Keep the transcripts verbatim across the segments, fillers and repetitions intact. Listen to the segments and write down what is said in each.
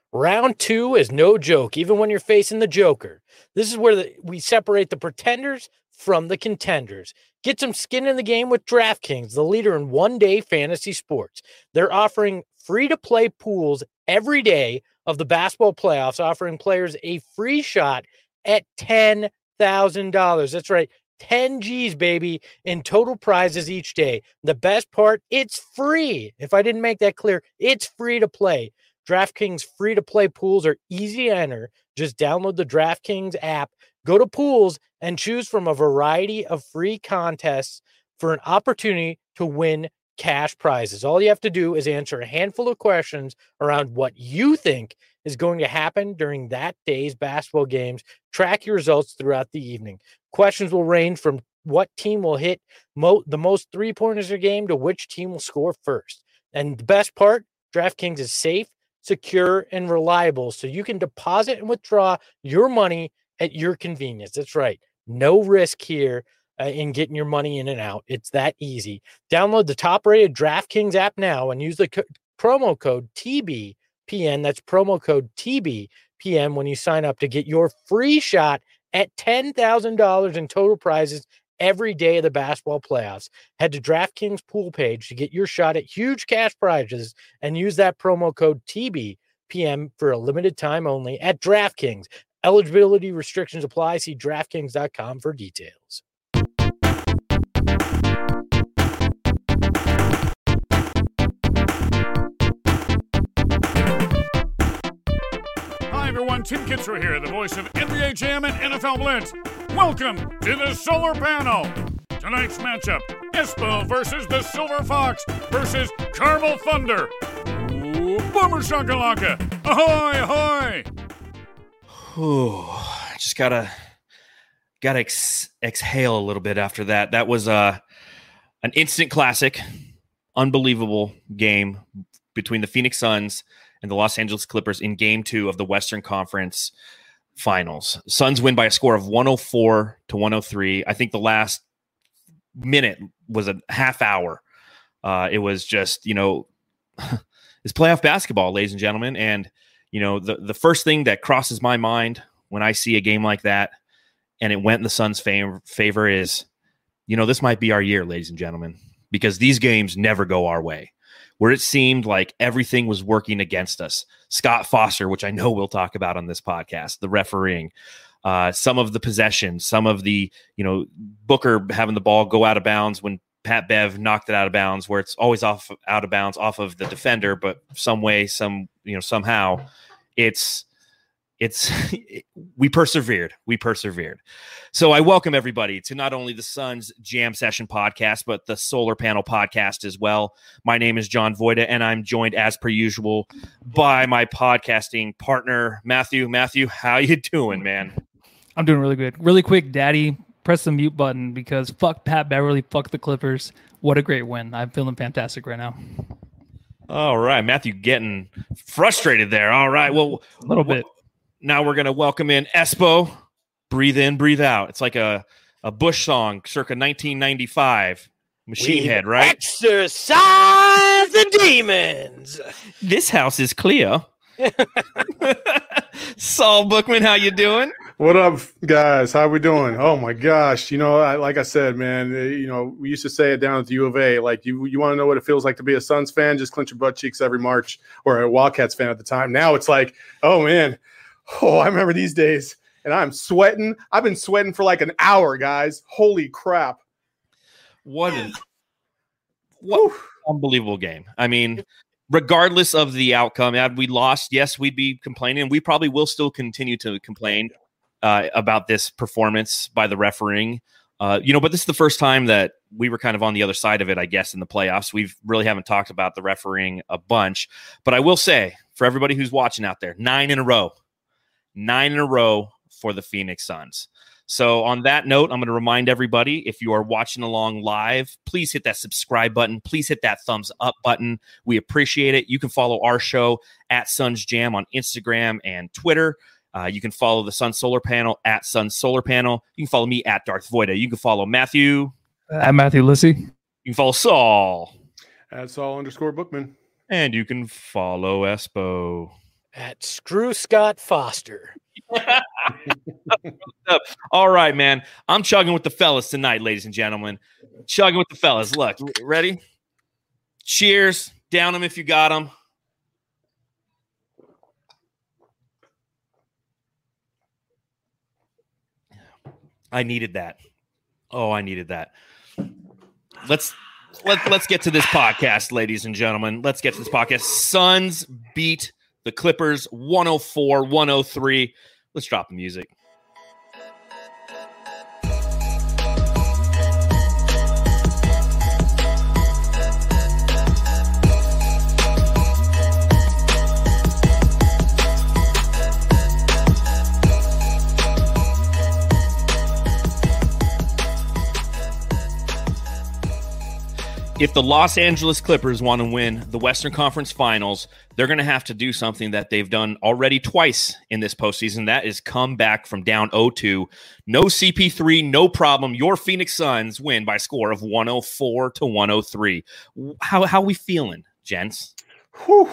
Round two is no joke, even when you're facing the Joker. This is where the, we separate the pretenders from the contenders. Get some skin in the game with DraftKings, the leader in one-day fantasy sports. They're offering free-to-play pools every day of the basketball playoffs, offering players a free shot at ten thousand dollars. That's right, ten G's, baby, in total prizes each day. The best part, it's free. If I didn't make that clear, it's free to play. DraftKings free-to-play pools are easy to enter. Just download the DraftKings app, go to pools, and choose from a variety of free contests for an opportunity to win cash prizes. All you have to do is answer a handful of questions around what you think is going to happen during that day's basketball games. Track your results throughout the evening. Questions will range from what team will hit mo- the most three-pointers a game to which team will score first. And the best part, DraftKings is safe, secure, and reliable, so you can deposit and withdraw your money at your convenience. That's right. No risk here uh, in getting your money in and out. It's that easy. Download the top-rated DraftKings app now and use the co- promo code T B P N. That's promo code T B P N when you sign up to get your free shot at ten thousand dollars in total prizes every day of the basketball playoffs. Head to DraftKings pool page to get your shot at huge cash prizes and use that promo code T B P M for a limited time only at DraftKings. Eligibility restrictions apply. See DraftKings dot com for details. Hi, everyone. Tim Kitzrow here, the voice of N B A Jam and N F L Blitz. Welcome to the Solar Panel. Tonight's matchup, Espo versus the Silver Fox versus Carmel Thunder. Ooh, Boomer Shakalaka. Ahoy, ahoy. Ooh, just gotta gotta ex- exhale a little bit after that. That was uh, an instant classic, unbelievable game between the Phoenix Suns and the Los Angeles Clippers in game two of the Western Conference Finals. Suns win by a score of one oh four to one oh three. I think the last minute was a half hour. Uh, it was just, you know, it's playoff basketball, ladies and gentlemen. And, you know, the, the first thing that crosses my mind when I see a game like that and it went in the Suns' favor, favor is, you know, this might be our year, ladies and gentlemen, because these games never go our way. Where it seemed like everything was working against us. Scott Foster, which I know we'll talk about on this podcast, the refereeing, uh, some of the possessions, some of the, you know, Booker having the ball go out of bounds when Pat Bev knocked it out of bounds, where it's always off out of bounds off of the defender, but some way, some, you know, somehow it's, it's, we persevered. We persevered. So I welcome everybody to not only the Suns Jam Session podcast, but the Solar Panel podcast as well. My name is John Voida, and I'm joined as per usual by my podcasting partner, Matthew. Matthew, how you doing, man? I'm doing really good. Really quick, Daddy, press the mute button because fuck Pat Beverly, fuck the Clippers. What a great win. I'm feeling fantastic right now. All right. Matthew getting frustrated there. All right. Well, a little bit. Now we're going to welcome in Espo. Breathe in, breathe out. It's like a, a Bush song circa nineteen ninety-five. Machine Head, right? Exercise the demons. This house is clear. Saul Bookman, how you doing? What up, guys? How we doing? Oh my gosh! You know, I, like I said, man. You know, we used to say it down at the U of A. Like, you, you want to know what it feels like to be a Suns fan? Just clench your butt cheeks every March, or a Wildcats fan at the time. Now it's like, oh man, oh I remember these days, and I'm sweating. I've been sweating for like an hour, guys. Holy crap! What an what unbelievable game. I mean, regardless of the outcome, had we lost, yes, we'd be complaining. We probably will still continue to complain uh, about this performance by the refereeing. Uh, you know, but this is the first time that we were kind of on the other side of it, I guess, in the playoffs. We really haven't talked about the refereeing a bunch. But I will say, for everybody who's watching out there, nine in a row. Nine in a row for the Phoenix Suns. So on that note, I'm going to remind everybody, if you are watching along live, please hit that subscribe button. Please hit that thumbs up button. We appreciate it. You can follow our show at Suns Jam on Instagram and Twitter. Uh, you can follow the Sun Solar Panel at Sun Solar Panel. You can follow me at Darth Voida. You can follow Matthew. At Matthew Lissy. You can follow Saul. At Saul underscore Bookman. And you can follow Espo. at Screw Scott Foster. All right, man. I'm chugging with the fellas tonight, ladies and gentlemen. Chugging with the fellas. Look, ready? Cheers. Down them if you got them. I needed that. Oh, I needed that. Let's let, let's get to this podcast, ladies and gentlemen. Let's get to this podcast. Suns beat the Clippers one oh four one oh three. Let's drop the music. If the Los Angeles Clippers want to win the Western Conference Finals, they're going to have to do something that they've done already twice in this postseason. That is come back from down oh two. No C P three, no problem. Your Phoenix Suns win by a score of one oh four to one oh three. How how we feeling, gents? Whew.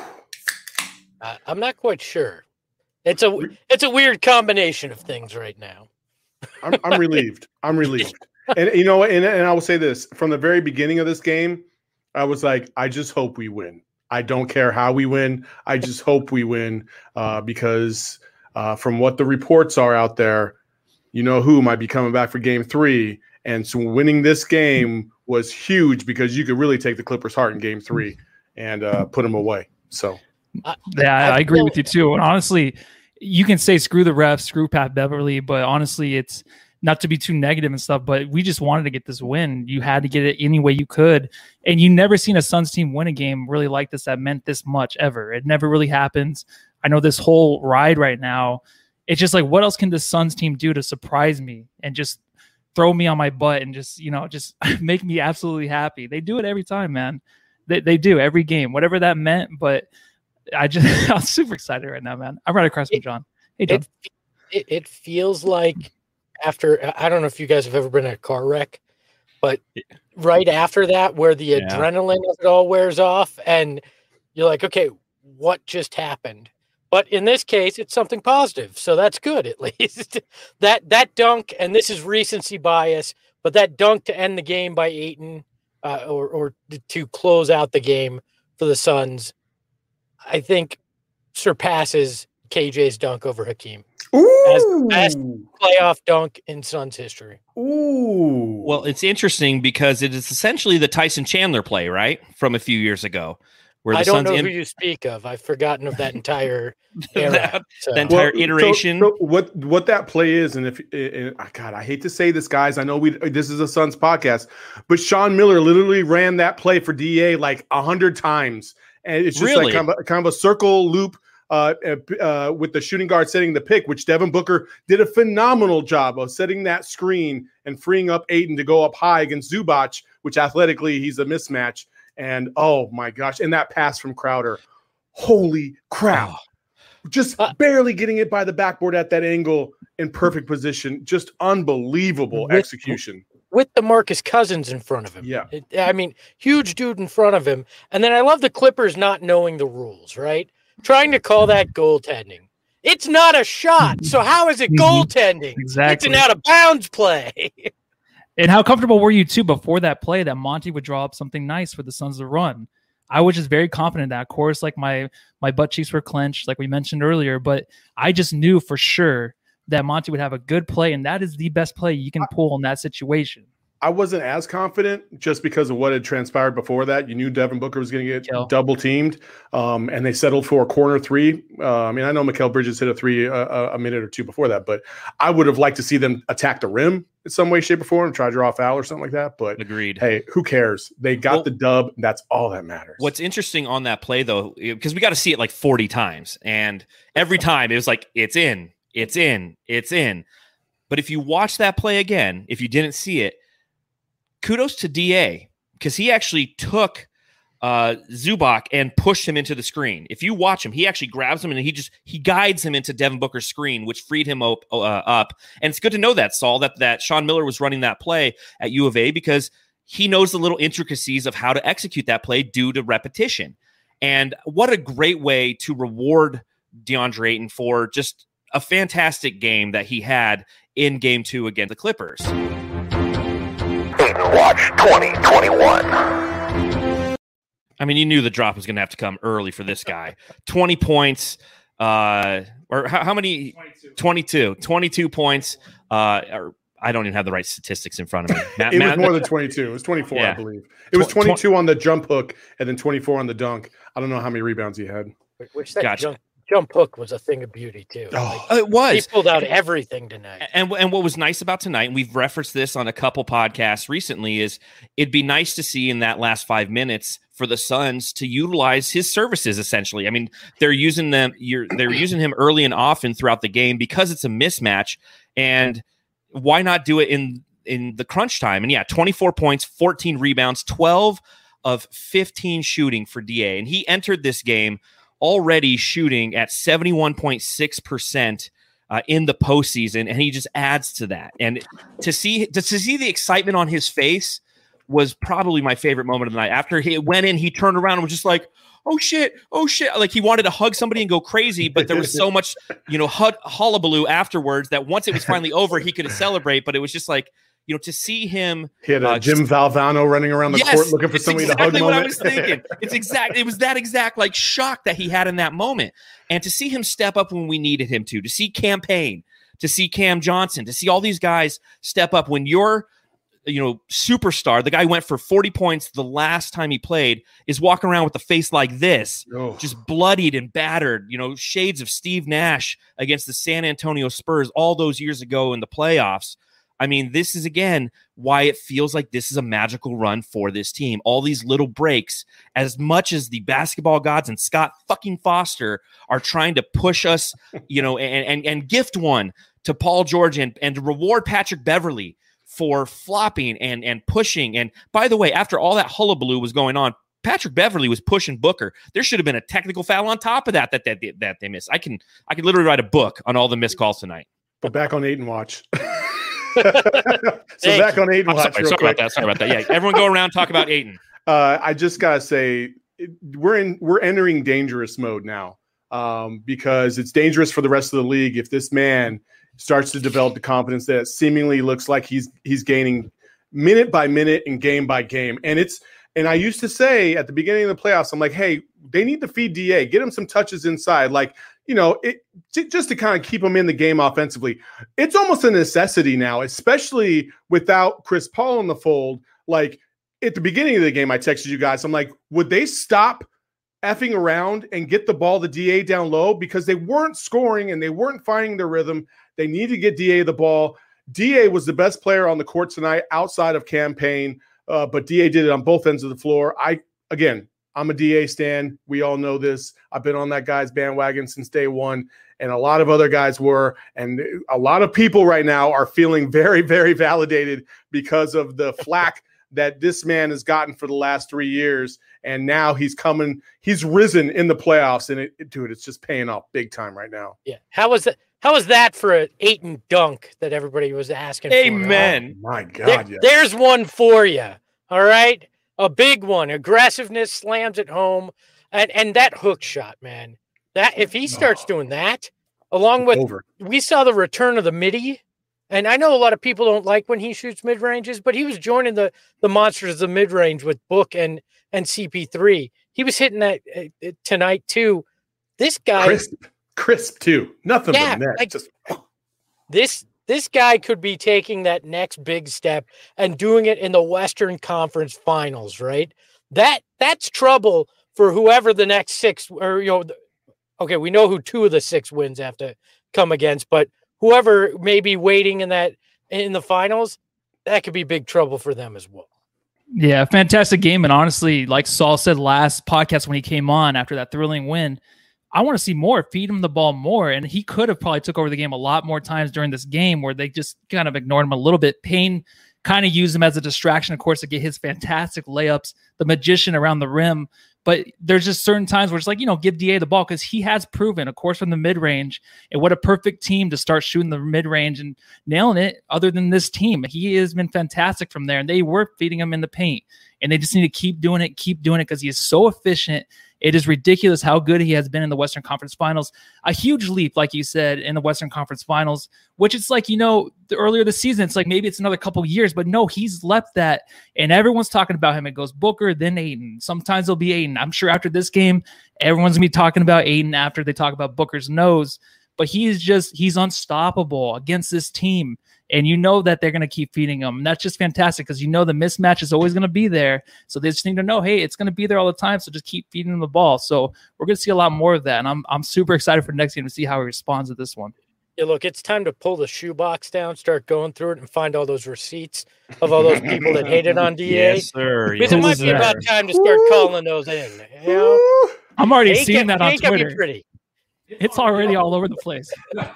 Uh, I'm not quite sure. It's a it's a weird combination of things right now. I'm, I'm relieved. I'm relieved. And you know, and, and I will say this from the very beginning of this game, I was like, I just hope we win. I don't care how we win. I just hope we win uh, because uh, from what the reports are out there, you know who might be coming back for game three. And so winning this game was huge because you could really take the Clippers' heart in game three and uh, put them away. So, yeah, I agree with you too. And honestly, you can say screw the refs, screw Pat Beverly, but honestly, it's not to be too negative and stuff, but we just wanted to get this win. You had to get it any way you could. And you never seen a Suns team win a game really like this that meant this much ever. It never really happens. I know this whole ride right now, it's just like, what else can the Suns team do to surprise me and just throw me on my butt and just, you know, just make me absolutely happy? They do it every time, man. They, they do every game, whatever that meant. But I just, I'm super excited right now, man. I'm right across from John. Hey, John. It, it, it feels like, after, I don't know if you guys have ever been in a car wreck, but right after that, where the yeah. adrenaline of it all wears off and you're like, okay, what just happened? But in this case, it's something positive. So that's good, at least. that that dunk, and this is recency bias, but that dunk to end the game by Ayton uh, or, or to close out the game for the Suns, I think surpasses K J's dunk over Hakeem. Ooh. As the best playoff dunk in Suns history. Ooh. Well, it's interesting because it is essentially the Tyson Chandler play, right? From a few years ago. Where the I don't Suns know in- who you speak of. I've forgotten of that entire era. that, so. that entire well, iteration. So, so what what that play is, and if and, God, I hate to say this, guys. I know we this is a Suns podcast, but Sean Miller literally ran that play for D A like a hundred times, and it's just Really? like kind of, a, kind of a circle loop. Uh, uh, with the shooting guard setting the pick, which Devin Booker did a phenomenal job of setting that screen and freeing up Ayton to go up high against Zubac, which athletically he's a mismatch. And oh my gosh, and that pass from Crowder, holy crap. Oh. Just uh, barely getting it by the backboard at that angle in perfect position. Just unbelievable with, execution. With the Marcus Cousins in front of him. Yeah. It, I mean, huge dude in front of him. And then I love the Clippers not knowing the rules, right? Trying to call that goaltending. It's not a shot. So how is it goaltending? Exactly. It's an out of bounds play. And how comfortable were you too before that play that Monty would draw up something nice for the Suns to run? I was just very confident in that. Of course, like my my butt cheeks were clenched, like we mentioned earlier, but I just knew for sure that Monty would have a good play, and that is the best play you can pull in that situation. I wasn't as confident just because of what had transpired before that. You knew Devin Booker was going to get Kill. double teamed, um, and they settled for a corner three. Uh, I mean, I know Mikal Bridges hit a three uh, a minute or two before that, but I would have liked to see them attack the rim in some way, shape, or form and try to draw a foul or something like that. But agreed. Hey, who cares? They got well, the dub. That's all that matters. What's interesting on that play, though, because we got to see it like forty times, and every time it was like, it's in, it's in, it's in. But if you watch that play again, if you didn't see it, kudos to D A because he actually took uh, Zubac and pushed him into the screen. If you watch him, he actually grabs him and he just he guides him into Devin Booker's screen, which freed him op- uh, up. And it's good to know that, Saul, that that Sean Miller was running that play at U of A because he knows the little intricacies of how to execute that play due to repetition. And what a great way to reward DeAndre Ayton for just a fantastic game that he had in game two against the Clippers. Ayton Watch twenty twenty-one. I mean, you knew the drop was going to have to come early for this guy. twenty points, uh, or how, how many? twenty-two. twenty-two. twenty-two points. Uh, or I don't even have the right statistics in front of me. Matt, it was Matt, more than twenty-two. It was twenty-four, yeah. I believe. It was twenty-two on the jump hook and then twenty-four on the dunk. I don't know how many rebounds he had. Which that Gotcha. jump, jump hook was a thing of beauty, too. Oh, Like, it was. he pulled out everything tonight. And and what was nice about tonight, and we've referenced this on a couple podcasts recently, is it'd be nice to see in that last five minutes for the Suns to utilize his services. Essentially, I mean, they're using them. You're they're using him early and often throughout the game because it's a mismatch. And why not do it in in the crunch time? And yeah, twenty-four points, fourteen rebounds, twelve of fifteen shooting for D A, and he entered this game already shooting at seventy-one point six percent uh, in the postseason, and he just adds to that. And to see to, to see the excitement on his face was probably my favorite moment of the night. After he went in, he turned around and was just like, oh shit, oh shit. Like he wanted to hug somebody and go crazy, but there was so much, you know, hud- hullabaloo afterwards that once it was finally over, he could celebrate. But it was just like, you know, to see him. He had a uh, Jim Valvano running around the yes, court looking for it's somebody exactly to hug. What moment. I was thinking. It's exact. It was that exact like shock that he had in that moment, and to see him step up when we needed him to, to see Campaign, to see Cam Johnson, to see all these guys step up when you're, you know, superstar. The guy went for forty points the last time he played, is walking around with a face like this, Oh. just bloodied and battered, you know, shades of Steve Nash against the San Antonio Spurs all those years ago in the playoffs. I mean, this is, again, why it feels like this is a magical run for this team. All these little breaks, as much as the basketball gods and Scott fucking Foster are trying to push us, you know, and and, and gift one to Paul George and, and to reward Patrick Beverley for flopping and, and pushing. And by the way, after all that hullabaloo was going on, Patrick Beverley was pushing Booker. There should have been a technical foul on top of that that that, that they missed. I can I could literally write a book on all the missed calls tonight. But back on Ayton Watch. so Thank back you. on Ayton I'm Watch sorry, real sorry quick. about that. Sorry about that. Yeah, everyone go around and talk about Ayton. Uh, I just gotta say, it, we're in we're entering dangerous mode now, um, because it's dangerous for the rest of the league if this man starts to develop the confidence that seemingly looks like he's he's gaining minute by minute and game by game. And it's and I used to say at the beginning of the playoffs, I'm like, hey, they need to feed D A, get him some touches inside, like, you know, it j- just to kind of keep him in the game offensively. It's almost a necessity now, especially without Chris Paul in the fold. Like, at the beginning of the game, I texted you guys. I'm like, would they stop effing around and get the ball to D A down low? Because they weren't scoring and they weren't finding their rhythm. They need to get D A the ball. D A was the best player on the court tonight outside of Campaign, uh, but D A did it on both ends of the floor. I, again, I'm a D A stan. We all know this. I've been on that guy's bandwagon since day one, and a lot of other guys were. And a lot of people right now are feeling very, very validated because of the flack that this man has gotten for the last three years. And now he's coming, he's risen in the playoffs. And it, it dude, it's just paying off big time right now. Yeah. How was that? How was that for an Ayton dunk that everybody was asking for? Amen. Oh, my God. There- yeah. There's one for you. All right. A big one. Aggressiveness, slams it home. And and that hook shot, man. That if he starts doing that, along with Over. we saw the return of the midi. And I know a lot of people don't like when he shoots mid ranges, but he was joining the the monsters of the mid range with Book and and C P three. He was hitting that uh, tonight too. This guy, Crisp, crisp too. Nothing Yeah, but net. like- Just this this guy could be taking that next big step and doing it in the Western Conference Finals, right? That that's trouble for whoever the next six or you know. the- Okay, we know who two of the six wins have to come against, but whoever may be waiting in that in the finals, that could be big trouble for them as well. Yeah, fantastic game. And honestly, like Saul said last podcast when he came on after that thrilling win, I want to see more, feed him the ball more. And he could have probably took over the game a lot more times during this game where they just kind of ignored him a little bit. Payne kind of used him as a distraction, of course, to get his fantastic layups, the magician around the rim. But there's just certain times where it's like, you know, give D A the ball because he has proven, of course, from the mid-range. And what a perfect team to start shooting the mid-range and nailing it other than this team. He has been fantastic from there. And they were feeding him in the paint. and they just need to keep doing it, keep doing it because he is so efficient. It is ridiculous how good he has been in the Western Conference Finals. A huge leap, like you said, in the Western Conference Finals, which it's like, you know, the earlier this season, it's like maybe it's another couple years, but no, he's left that. And everyone's talking about him. It goes Booker, then Ayton. Sometimes it'll be Ayton. I'm sure after this game, everyone's going to be talking about Ayton after they talk about Booker's nose. But he is just, he's unstoppable against this team. And you know that they're going to keep feeding him. And that's just fantastic because you know the mismatch is always going to be there. So they just need to know, hey, it's going to be there all the time. So just keep feeding him the ball. So we're going to see a lot more of that. And I'm I'm super excited for next game to see how he responds to this one. Yeah, look, it's time to pull the shoebox down, start going through it, and find all those receipts of all those people that hated on D A. Yes, sir. Because Yes, it might sir. be about time to start calling those in. You know? I'm already Ain't seeing get- that on ain't gonna be Twitter. pretty. It's already all over the place.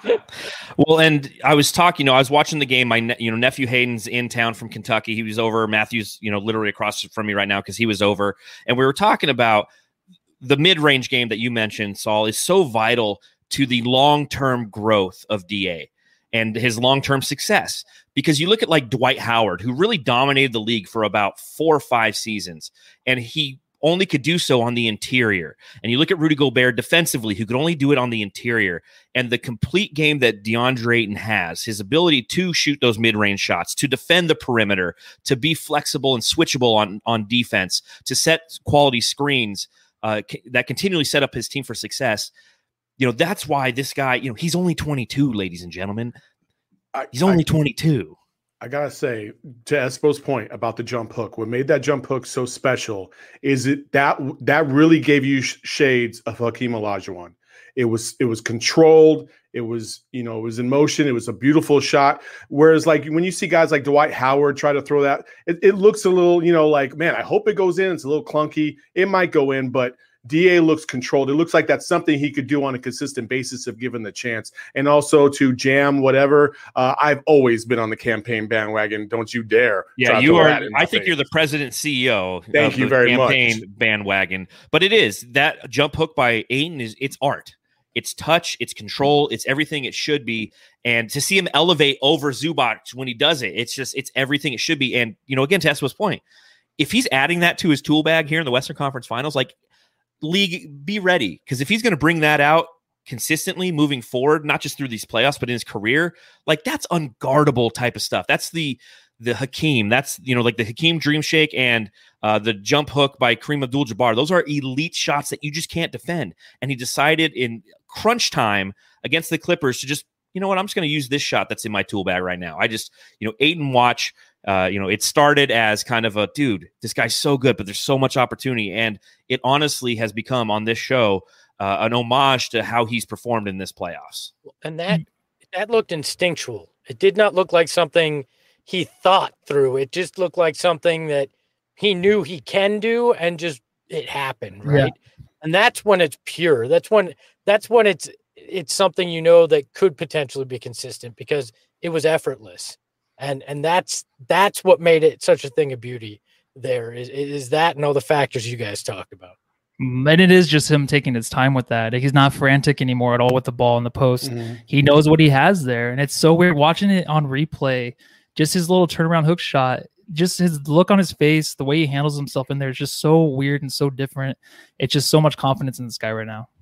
Well, and I was talking, you know, I was watching the game. My, ne- you know, nephew Hayden's in town from Kentucky. He was over. Matthew's, you know, literally across from me right now because he was over. And we were talking about the mid-range game that you mentioned, Saul, is so vital to the long-term growth of D A and his long-term success. Because you look at like Dwight Howard, who really dominated the league for about four or five seasons, and he only could do so on the interior. And you look at Rudy Gobert defensively, who could only do it on the interior. And the complete game that DeAndre Ayton has, his ability to shoot those mid-range shots, to defend the perimeter, to be flexible and switchable on, on defense, to set quality screens uh, c- that continually set up his team for success. You know, that's why this guy, you know, he's only twenty-two, ladies and gentlemen. I, He's only I, twenty-two. I gotta say, to Espo's point about the jump hook, what made that jump hook so special is it that that really gave you sh- shades of Hakeem Olajuwon. It was it was controlled. It was, you know, it was in motion. It was a beautiful shot. Whereas, like when you see guys like Dwight Howard try to throw that, it, it looks a little, you know, like, man, I hope it goes in. It's a little clunky. It might go in, but D A looks controlled. It looks like that's something he could do on a consistent basis if given the chance. And also to jam whatever. Uh, I've always been on the campaign bandwagon. Don't you dare. Yeah, try to you throw are. that in my I think face. you're the president C E O. Thank of you the very campaign much. bandwagon. But it is that jump hook by Ayton is it's art. It's touch. It's control. It's everything it should be. And to see him elevate over Zubac when he does it, it's just it's everything it should be. And you know, again, to Espo's point, if he's adding that to his tool bag here in the Western Conference Finals, like. League, be ready, because if he's going to bring that out consistently moving forward, not just through these playoffs but in his career, like that's unguardable type of stuff. That's the the Hakeem. That's, you know, like the Hakeem Dream Shake and uh, the jump hook by Kareem Abdul-Jabbar. Those are elite shots that you just can't defend. And he decided in crunch time against the Clippers to just, you know what, I'm just going to use this shot that's in my tool bag right now. I just, you know, Ayton watch. Uh, you know, it started as kind of a dude, this guy's so good, but there's so much opportunity. And it honestly has become on this show uh, an homage to how he's performed in this playoffs. And that that looked instinctual. It did not look like something he thought through. It just looked like something that he knew he can do, and just it happened, right? Yeah. And that's when it's pure. That's when that's when it's it's something, you know, that could potentially be consistent because it was effortless. And and that's that's what made it such a thing of beauty. There is is that and all the factors you guys talked about. And it is just him taking his time with that. He's not frantic anymore at all with the ball in the post. Mm-hmm. He knows what he has there, and it's so weird watching it on replay. Just his little turnaround hook shot, just his look on his face, the way he handles himself in there is just so weird and so different. It's just so much confidence in this guy right now.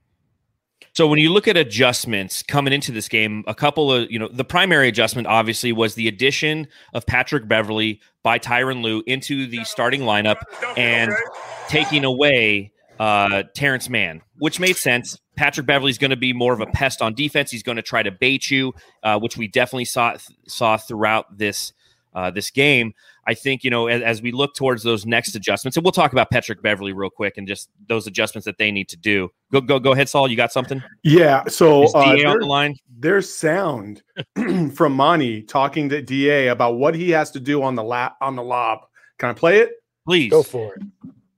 So when you look at adjustments coming into this game, a couple of, you know, the primary adjustment obviously was the addition of Patrick Beverley by Tyronn Lue into the starting lineup and taking away uh, Terrence Mann, which made sense. Patrick Beverley's going to be more of a pest on defense. He's going to try to bait you, uh, which we definitely saw saw throughout this uh, this game. I think, you know, as, as we look towards those next adjustments, and we'll talk about Patrick Beverley real quick and just those adjustments that they need to do. Go, go, go ahead, Saul. You got something? Yeah. So Is D A uh, on there, the line? There's sound from Monty talking to D A about what he has to do on the lap on the lob. Can I play it? Please go for it.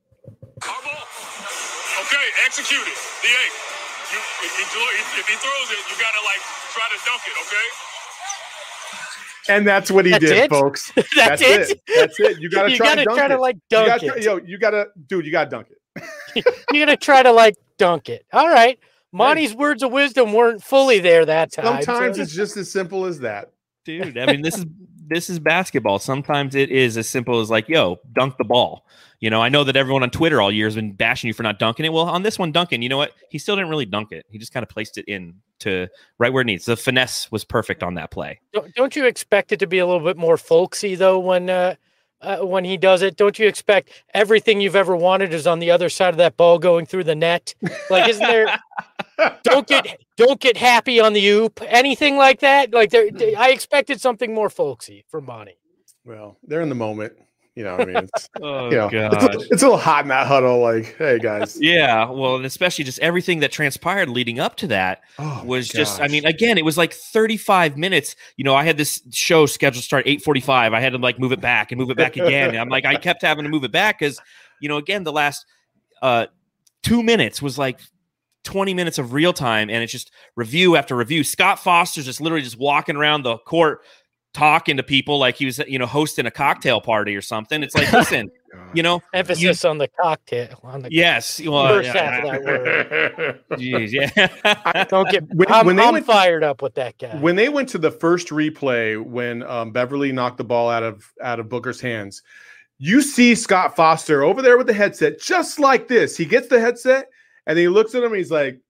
Okay, execute it. D A, you, if, if he throws it, you gotta like try to dunk it. Okay. And that's what he that's did, it? folks. That's, that's it. it. That's it. You gotta you try gotta to dunk try it. to like dunk you gotta, it. Yo, you gotta, dude. You gotta dunk it. You're gonna try to like dunk it. All right. Monty's words of wisdom weren't fully there that time. Sometimes so. it's just as simple as that. Dude, I mean, this is this is basketball. Sometimes it is as simple as like, yo, dunk the ball. You know, I know that everyone on Twitter all year has been bashing you for not dunking it. Well, on this one, Duncan, you know what? He still didn't really dunk it. He just kind of placed it in to right where it needs. The finesse was perfect on that play. Don't, don't you expect it to be a little bit more folksy though when uh, uh, when he does it? Don't you expect everything you've ever wanted is on the other side of that ball going through the net? Like, isn't there? don't get don't get happy on the oop, anything like that. Like, there, I expected something more folksy from Monty. Well, they're in the moment. You know what I mean? It's, Oh, you know, it's, a, it's a little hot in that huddle. Like, hey, guys. Yeah, well, and especially just everything that transpired leading up to that Oh, was my just, I gosh. mean, again, it was like thirty-five minutes. You know, I had this show scheduled to start eight forty-five. I had to like move it back and move it back again. And I'm like, I kept having to move it back because, you know, again, the last uh, two minutes was like twenty minutes of real time. And it's just review after review. Scott Foster's just literally just walking around the court talking to people like he was, you know, hosting a cocktail party or something. It's like, listen, you know, Emphasis on the cocktail. On the yes, well, first yeah, half of that word. geez, yeah. Don't get. When- I'm, when they I'm went- fired up with that guy. When they went to the first replay, when um, Beverly knocked the ball out of out of Booker's hands, you see Scott Foster over there with the headset, just like this. He gets the headset and he looks at him. And he's like,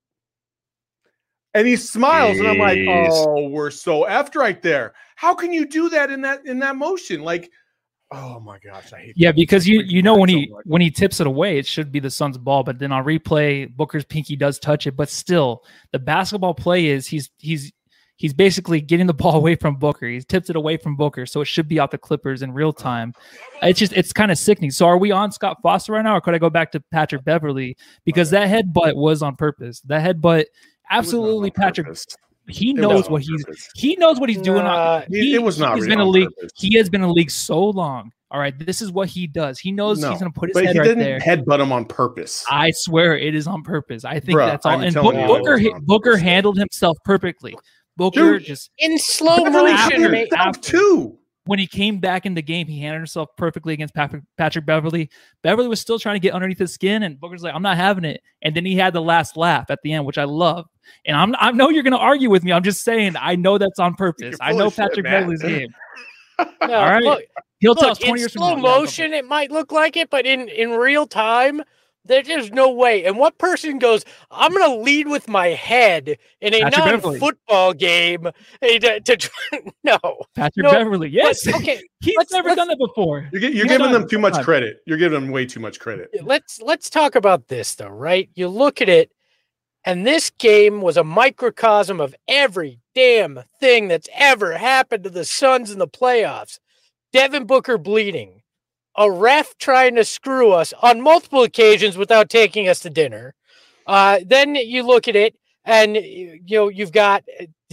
and he smiles, and I'm like, Jeez. oh, we're so effed right there. How can you do that in that in that motion? Like, oh my gosh, I hate. Yeah, because you you know when so he much. when he tips it away, it should be the Suns' ball, but then on replay, Booker's pinky does touch it. But still, the basketball play is he's he's he's basically getting the ball away from Booker. He's tipped it away from Booker, so it should be out the Clippers in real time. It's just it's kind of sickening. So are we on Scott Foster right now, or could I go back to Patrick Beverly? Because that headbutt was on purpose. That headbutt, absolutely, Patrick. He knows what he's he knows what he's doing. Nah, He, it was not He's really been in on a league. purpose. He has been in a league so long. All right, this is what he does. He knows No, he's going to put his but head he right didn't there. headbutt him on purpose. I swear it is on purpose. I think Bruh, that's all. I'm And telling Book- you, Booker, it was hit- on Booker purpose. handled himself perfectly. Booker Dude. just in slow Beverly motion, cleared mate. himself after- too. when he came back in the game, he handled himself perfectly against Patrick, Patrick Beverly. Beverly was still trying to get underneath his skin, and Booker's like, "I'm not having it." And then he had the last laugh at the end, which I love. And I'm I know you're going to argue with me. I'm just saying I know that's on purpose. You're I full know of shit, Patrick man. Beverly's game. No, All right. look, He'll tell us look, in twenty years from slow now. motion, it might look like it, but in, in real time, there- there's no way. And what person goes, I'm going to lead with my head in a Patrick Beverly. non-football game eh, to, to try- no. Patrick No, Beverly, yes. But, okay, He's let's- never let's- done that before. You're, gi- you're He's giving done them it too all much the time. credit. You're giving them way too much credit. let's let's talk about this though, right? You look at it, and this game was a microcosm of every damn thing that's ever happened to the Suns in the playoffs. Devin Booker bleeding, a ref trying to screw us on multiple occasions without taking us to dinner. Uh, then you look at it, and you know you've got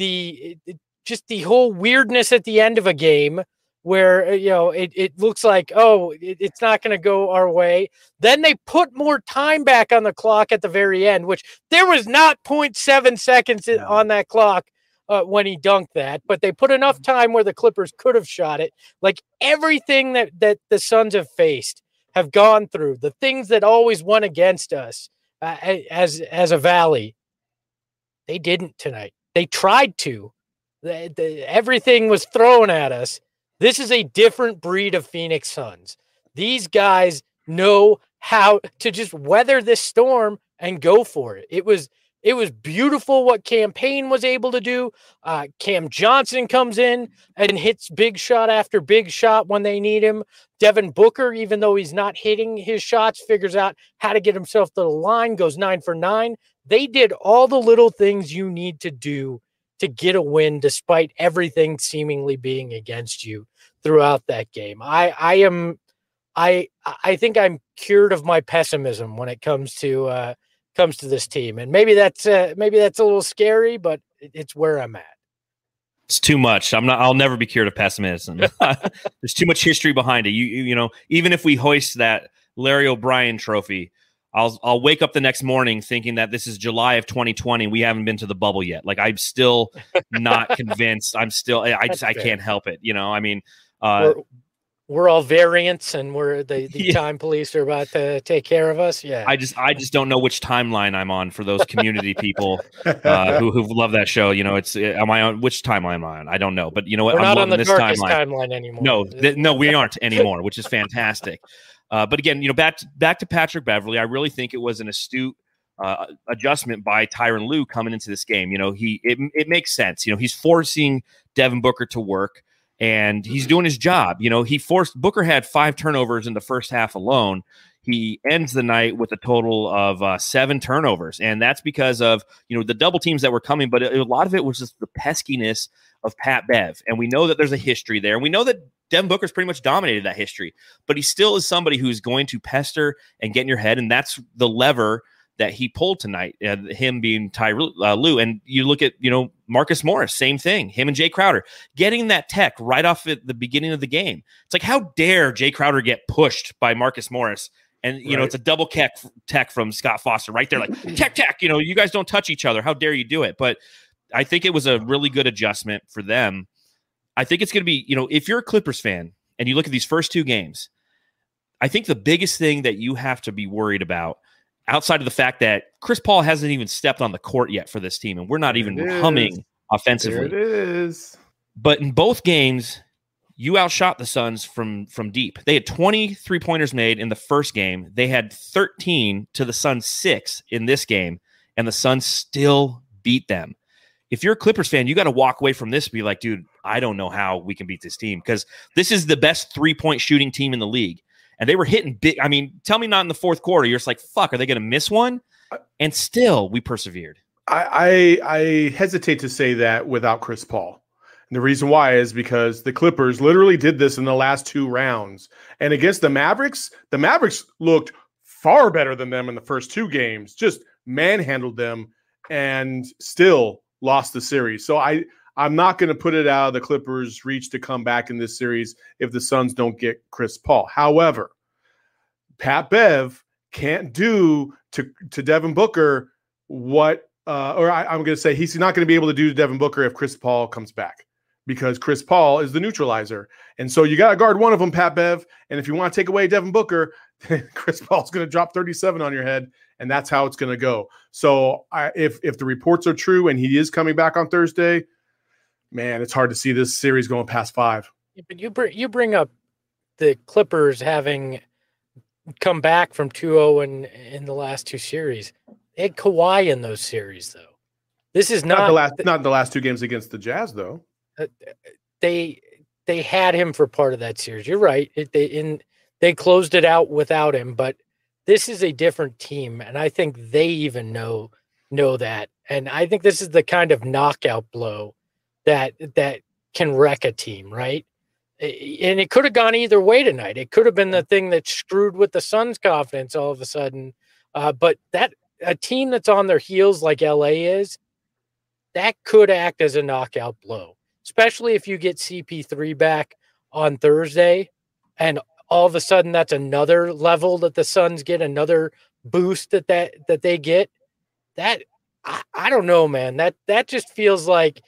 the just the whole weirdness at the end of a game where you know it, it looks like oh it, it's not going to go our way. Then they put more time back on the clock at the very end, which there was not zero point seven seconds in- on that clock uh, when he dunked that, but they put enough time where the Clippers could have shot it. Like everything that that the Suns have faced, have gone through, the things that always went against us uh, as as a Valley, they didn't tonight. They tried to. The, the, everything was thrown at us. This is a different breed of Phoenix Suns. These guys know how to just weather this storm and go for it. It was it was beautiful what Campaign was able to do. Uh, Cam Johnson comes in and hits big shot after big shot when they need him. Devin Booker, even though he's not hitting his shots, figures out how to get himself to the line, goes nine for nine. They did all the little things you need to do to get a win despite everything seemingly being against you throughout that game. I, I am, I, I think I'm cured of my pessimism when it comes to, uh, comes to this team. And maybe that's, uh, maybe that's a little scary, but it's where I'm at. It's too much. I'm not. I'll never be cured of pessimism. There's too much history behind it. You, you, you know, even if we hoist that Larry O'Brien trophy, I'll, I'll wake up the next morning thinking that this is July of twenty twenty. And we haven't been to the bubble yet. Like I'm still not convinced. I'm still. I just. I can't help it. You know. I mean, uh, We're, we're all variants and we're the, the Yeah. time police are about to take care of us. Yeah. I just I just don't know which timeline I'm on for those community people uh, who who love that show. You know, it's am I on which timeline am I on? I don't know, but you know what? we're I'm not on loving the this darkest timeline. timeline anymore. No, th- no, we aren't anymore, which is fantastic. Uh, but again, you know, back to, back to Patrick Beverley, I really think it was an astute uh, adjustment by Tyronn Lue coming into this game. You know, he it it makes sense. You know, he's forcing Devin Booker to work. And he's doing his job. You know, he forced Booker had five turnovers in the first half alone. He ends the night with a total of uh, seven turnovers. And that's because of, you know, the double teams that were coming. But a, a lot of it was just the peskiness of Pat Bev. And we know that there's a history there. And we know that Devin Booker's pretty much dominated that history. But he still is somebody who's going to pester and get in your head. And that's the lever that he pulled tonight, uh, him being Tyronn uh, Lue. And you look at, you know, Marcus Morris, same thing, him and Jay Crowder getting that tech right off at the beginning of the game. It's like, how dare Jay Crowder get pushed by Marcus Morris? And, you right. know, it's a double tech, tech from Scott Foster right there. Like tech, tech, you know, you guys don't touch each other. How dare you do it? But I think it was a really good adjustment for them. I think it's going to be, you know, if you're a Clippers fan and you look at these first two games, I think the biggest thing that you have to be worried about outside of the fact that Chris Paul hasn't even stepped on the court yet for this team, and we're not There even it humming is. offensively. There it is. But in both games, you outshot the Suns from, from deep. They had twenty three-pointers made in the first game. They had thirteen to the Suns' six in this game, and the Suns still beat them. If you're a Clippers fan, you got to walk away from this and be like, dude, I don't know how we can beat this team because this is the best three-point shooting team in the league. And they were hitting big. I mean, tell me not in the fourth quarter. You're just like, fuck, are they going to miss one? And still, we persevered. I, I I hesitate to say that without Chris Paul. And the reason why is because the Clippers literally did this in the last two rounds. And against the Mavericks, the Mavericks looked far better than them in the first two games, just manhandled them and still lost the series. So I, I'm not going to put it out of the Clippers' reach to come back in this series if the Suns don't get Chris Paul. However, Pat Bev can't do to, to Devin Booker what, uh, or I, I'm going to say he's not going to be able to do to Devin Booker if Chris Paul comes back because Chris Paul is the neutralizer. And so you got to guard one of them, Pat Bev. And if you want to take away Devin Booker, Chris Paul's going to drop thirty-seven on your head, and that's how it's going to go. So I, if if the reports are true and he is coming back on Thursday, man, it's hard to see this series going past five. But you bring you bring up the Clippers having come back from two oh in in the last two series. They had Kawhi in those series, though. This is not, Not the last, not the last two games against the Jazz, though. uh, they they had him for part of that series. You're right. It, they in they closed it out without him, but this is a different team, and I think they even know know that. And I think this is the kind of knockout blow that that can wreck a team, right? And it could have gone either way tonight. It could have been the thing that screwed with the Suns' confidence all of a sudden. Uh, but that a team that's on their heels like L A is, that could act as a knockout blow, especially if you get C P three back on Thursday, and all of a sudden that's another level that the Suns get, another boost that that, that they get. That I, I don't know, man. That that just feels like.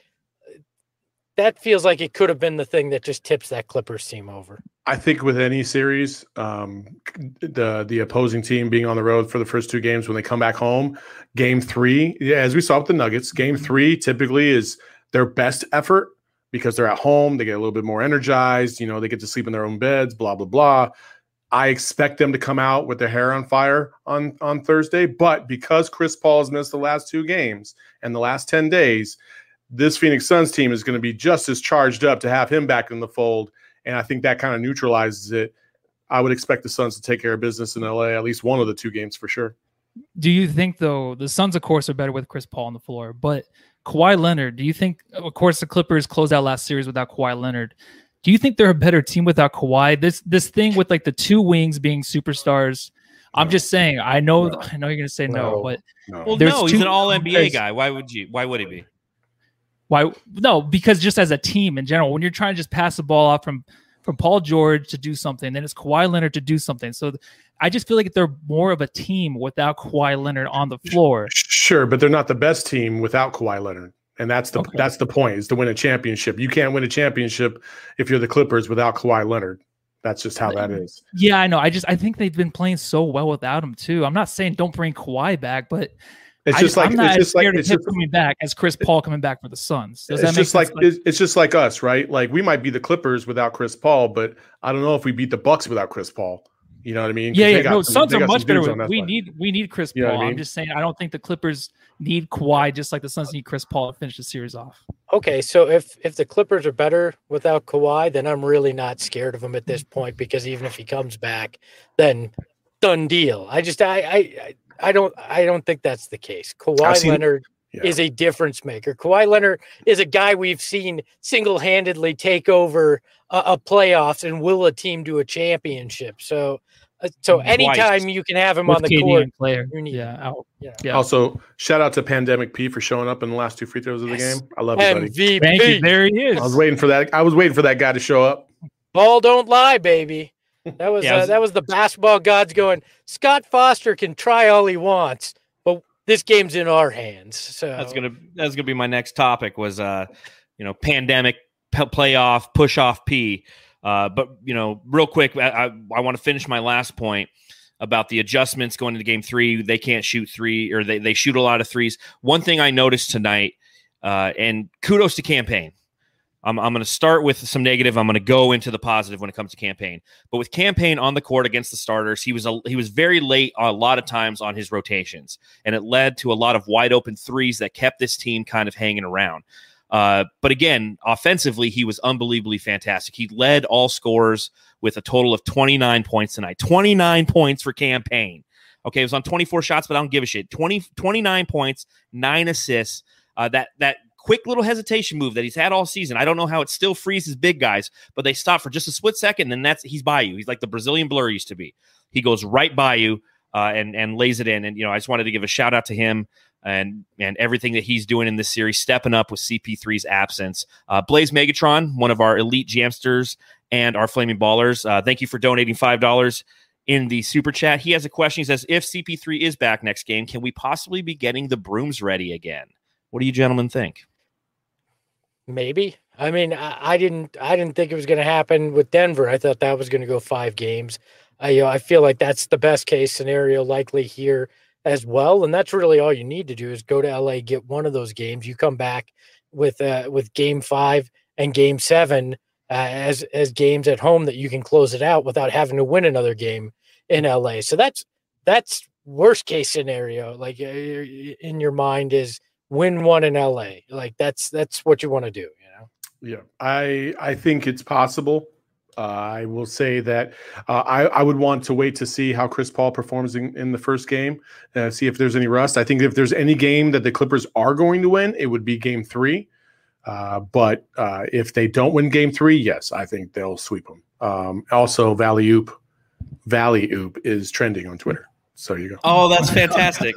That feels like it could have been the thing that just tips that Clippers team over. I think with any series, um, the the opposing team being on the road for the first two games, when they come back home, game three, yeah, as we saw with the Nuggets, game three typically is their best effort because they're at home. They get a little bit more energized. You know, they get to sleep in their own beds, blah, blah, blah. I expect them to come out with their hair on fire on, on Thursday. But because Chris Paul has missed the last two games and the last ten days, this Phoenix Suns team is going to be just as charged up to have him back in the fold. And I think that kind of neutralizes it. I would expect the Suns to take care of business in L A, at least one of the two games for sure. Do you think, though, the Suns, of course, are better with Chris Paul on the floor, but Kawhi Leonard, do you think, of course, the Clippers closed out last series without Kawhi Leonard. Do you think they're a better team without Kawhi? This this thing with like the two wings being superstars, I'm No. just saying, I know, No. I know you're going to say no, No. but No. Well, There's no, he's two- an all N B A there's- guy. Why would you? Why would he be? why? No, because just as a team in general, when you're trying to just pass the ball off from from Paul George to do something, then it's Kawhi Leonard to do something. So th- I just feel like they're more of a team without Kawhi Leonard on the floor. Sure, but they're not the best team without Kawhi Leonard. And that's the Okay. that's the point, is to win a championship. You can't win a championship if you're the Clippers without Kawhi Leonard. That's just how that is. Yeah, I know. I just I think they've been playing so well without him too. I'm not saying don't bring Kawhi back, but It's I just like I'm not it's as just like scared it's of him just, coming back as Chris Paul coming back for the Suns. Does that it's make just like, sense? it's, it's just like us, right? Like we might be the Clippers without Chris Paul, but I don't know if we beat the Bucks without Chris Paul. You know what I mean? 'Cause Yeah, they yeah. got No, some- Suns they are got much some better. dudes With, on that we side. need we need Chris You know Paul. what I I'm mean? just saying I don't think the Clippers need Kawhi just like the Suns need Chris Paul to finish the series off. Okay, so if if the Clippers are better without Kawhi, then I'm really not scared of him at this point because even if he comes back, then done deal. I just I I I don't I don't think that's the case. Kawhi seen- Leonard Yeah. is a difference maker. Kawhi Leonard is a guy we've seen single-handedly take over a, a playoffs and will a team to a championship. So uh, so Twice. anytime you can have him With on the K D court, and Claire. you need Yeah, out. yeah. Yeah. Also, shout out to Pandemic P for showing up in the last two free throws of the Yes. game. I love you, buddy. M V P. Thank you. There he is. I was waiting for that. I was waiting for that guy to show up. Ball don't lie, baby. That was, Yeah, I uh, was- that was the basketball gods going. Scott Foster can try all he wants, but this game's in our hands. So That's gonna that's gonna be my next topic. Was uh, you know, pandemic p- playoff push off P. Uh, but you know, real quick, I I, I want to finish my last point about the adjustments going into game three. They can't shoot three, or they they shoot a lot of threes. One thing I noticed tonight, uh, and kudos to Campaign. I'm, I'm going to start with some negative. I'm going to go into the positive when it comes to Campaign. But with Campaign on the court against the starters, he was a, he was very late a lot of times on his rotations, and it led to a lot of wide open threes that kept this team kind of hanging around. Uh, but again, offensively, he was unbelievably fantastic. He led all scorers with a total of twenty-nine points tonight. twenty-nine points for Campaign. Okay, it was on twenty-four shots, but I don't give a shit. twenty, twenty-nine points, nine assists. Uh, that that. Quick little hesitation move that he's had all season. I don't know how it still freezes big guys, but they stop for just a split second, and that's he's by you. He's like the Brazilian Blur used to be. He goes right by you uh, and and lays it in. And you know, I just wanted to give a shout out to him and and everything that he's doing in this series, stepping up with C P three's absence. Uh, Blaze Megatron, one of our elite jamsters and our flaming ballers. Uh, thank you for donating five dollars in the super chat. He has a question. He says, "If C P three is back next game, can we possibly be getting the brooms ready again?" What do you gentlemen think? maybe. I mean, I, I didn't I didn't think it was going to happen with Denver. I thought that was going to go five games. I you know, I feel like that's the best case scenario likely here as well. And that's really all you need to do is go to L A, get one of those games. You come back with uh, with game five and game seven uh, as as games at home that you can close it out without having to win another game in L A. So that's that's worst case scenario. Like uh, in your mind is win one in L A. Like that's that's what you want to do. You know. Yeah, I I think it's possible. Uh, I will say that uh, I, I would want to wait to see how Chris Paul performs in, in the first game, uh, see if there's any rust. I think if there's any game that the Clippers are going to win, it would be game three. Uh, but uh, if they don't win game three, yes, I think they'll sweep them. Um, also, Valley Oop, Valley Oop is trending on Twitter. So you go. Oh, that's fantastic.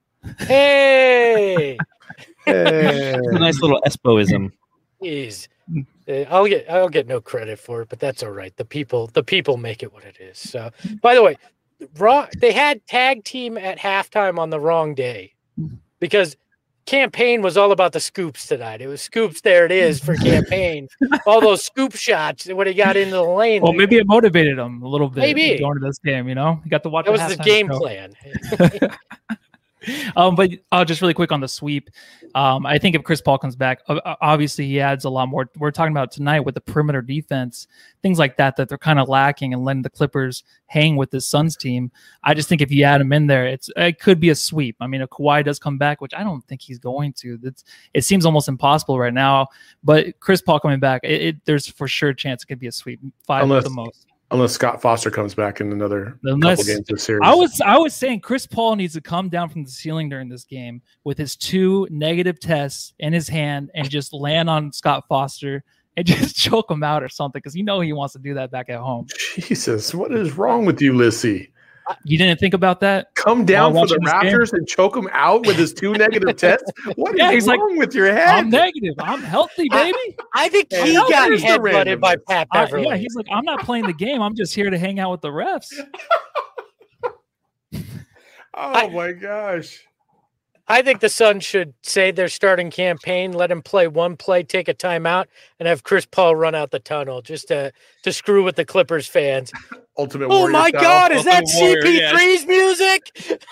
Hey, Hey. a nice little Espoism. jeez. Uh, I'll get I'll get no credit for it, but that's all right. The people the people make it what it is. So, by the way, wrong. They had tag team at halftime on the wrong day because Campaign was all about the scoops tonight. It was scoops. There it is for Campaign. All those scoop shots when he got into the lane. Well, maybe it motivated him a little bit. Maybe. going to this game. You know, he got to watch. that was the halftime game show. plan. um, but uh, just really quick on the sweep. Um, I think if Chris Paul comes back, uh, obviously he adds a lot more. We're talking about tonight with the perimeter defense, things like that, that they're kind of lacking and letting the Clippers hang with this Suns team. I just think if you add him in there, it's it could be a sweep. I mean, if Kawhi does come back, which I don't think he's going to, that's it seems almost impossible right now. But Chris Paul coming back, it, it, there's for sure a chance it could be a sweep, five Unless- at the most. Unless Scott Foster comes back in another Unless- couple games of the series. I was I was saying Chris Paul needs to come down from the ceiling during this game with his two negative tests in his hand and just land on Scott Foster and just choke him out or something because you know he wants to do that back at home. Jesus, what is wrong with you, Lissy? You didn't think about that? Come down While for the watching this game? Raptors and choke him out with his two negative tests? What is Yeah, he's like, wrong with your head? I'm negative. I'm healthy, baby. I think Yeah, he how got is the headbutted by randomness? Pat I- Beverly. yeah, he's like, I'm not playing the game. I'm just here to hang out with the refs. Oh my gosh. I think the Suns should say their starting campaign, let him play one play, take a timeout, and have Chris Paul run out the tunnel just to to screw with the Clippers fans. Ultimate Oh Warrior my style. God, is that Ultimate Warrior, C P three's music?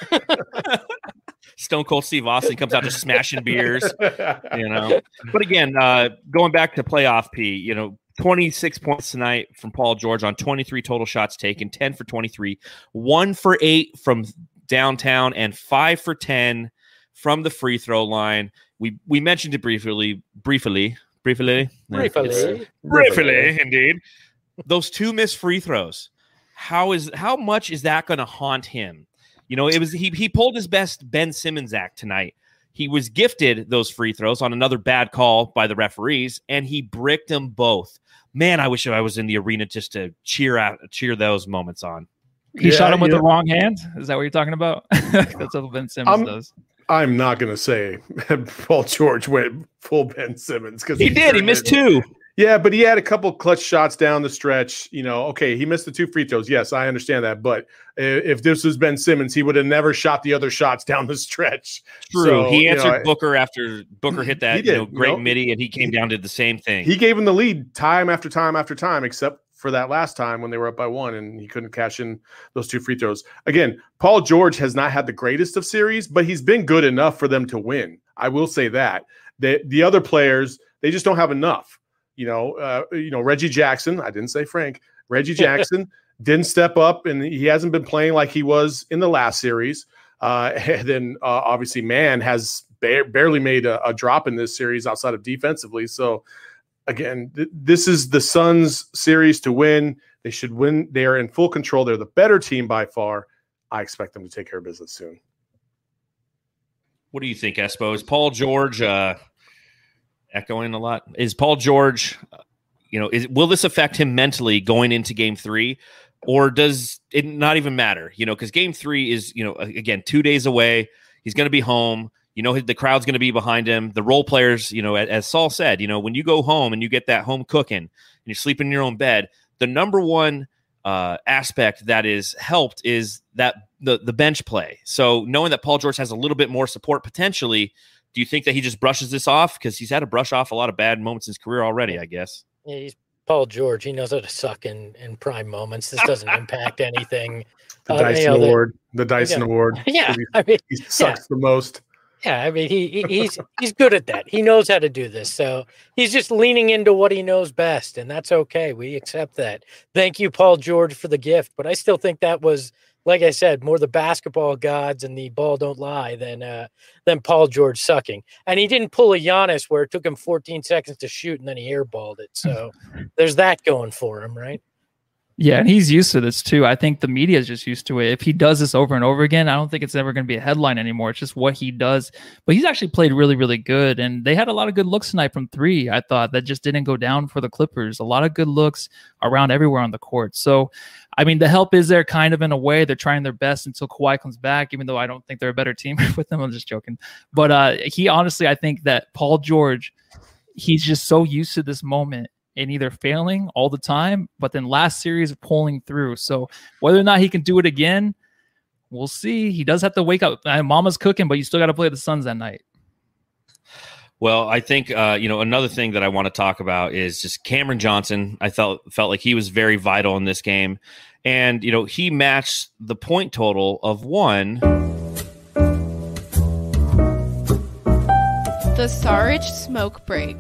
Stone Cold Steve Austin comes out just smashing beers, you know. But again, uh, going back to playoff P, you know, twenty-six points tonight from Paul George on twenty-three total shots taken, ten for twenty-three, one for eight from downtown, and five for ten from the free throw line. We we mentioned it briefly, briefly, briefly, Briefly. briefly, indeed. Those two missed free throws. How is how much is that going to haunt him? You know, it was he he pulled his best Ben Simmons act tonight. He was gifted those free throws on another bad call by the referees, and he bricked them both. Man, I wish I was in the arena just to cheer out, cheer those moments on. He Yeah, shot him with yeah. the wrong hand. Is that what you're talking about? That's what Ben Simmons I'm- does. I'm not going to say Paul George went full Ben Simmons because He did. He missed two. Yeah, but he had a couple clutch shots down the stretch. You know, okay, he missed the two free throws. Yes, I understand that. But if this was Ben Simmons, he would have never shot the other shots down the stretch. True. So, he you answered know, Booker after Booker hit that He you did, know, you great know. midi, and he came down to the same thing. He gave him the lead time after time after time, except for that last time when they were up by one and he couldn't cash in those two free throws. Again, Paul George has not had the greatest of series, but he's been good enough for them to win. I will say that. The, the other players, they just don't have enough. You know, uh, you know, Reggie Jackson, I didn't say Frank, Reggie Jackson didn't step up, and he hasn't been playing like he was in the last series. Uh, and then uh, obviously Mann has ba- barely made a, a drop in this series outside of defensively. So again, th- this is the Suns series to win. They should win. They are in full control. They're the better team by far. I expect them to take care of business soon. What do you think, Espo? Is Paul George uh, echoing a lot? Is Paul George, uh, you know, is will this affect him mentally going into game three? Or does it not even matter? You know, because game three is, you know, again, two days away. He's going to be home. You know, the crowd's going to be behind him. The role players, you know, as Saul said, you know, when you go home and you get that home cooking and you're sleeping in your own bed, the number one uh, aspect that is helped is that the, the bench play. So knowing that Paul George has a little bit more support potentially, do you think that he just brushes this off? Because he's had to brush off a lot of bad moments in his career already, I guess. Yeah, he's Paul George. He knows how to suck in, in prime moments. This doesn't impact anything. The Uh, Dyson you know, the- Award. The Dyson Yeah. Award. Yeah, He, I mean, he sucks the most. yeah, I mean, he, he he's he's good at that. He knows how to do this. So he's just leaning into what he knows best, and that's okay. We accept that. Thank you, Paul George, for the gift. But I still think that was, like I said, more the basketball gods and the ball don't lie than uh, than Paul George sucking. And he didn't pull a Giannis where it took him fourteen seconds to shoot and then he airballed it. So there's that going for him, right? Yeah, and he's used to this too. I think the media is just used to it. If he does this over and over again, I don't think it's ever going to be a headline anymore. It's just what he does. But he's actually played really, really good. And they had a lot of good looks tonight from three, I thought, that just didn't go down for the Clippers. A lot of good looks around everywhere on the court. So, I mean, the help is there kind of in a way. They're trying their best until Kawhi comes back, even though I don't think they're a better team with them. I'm just joking. But uh, he honestly, I think that Paul George, he's just so used to this moment and either failing all the time, but then last series pulling through. So whether or not he can do it again, we'll see. He does have to wake up. Uh, Mama's cooking, but you still got to play the Suns that night. Well, I think uh, you know, another thing that I want to talk about is just Cameron Johnson. I felt felt like he was very vital in this game, and you know, he matched the point total of one. The Sarge smoke break.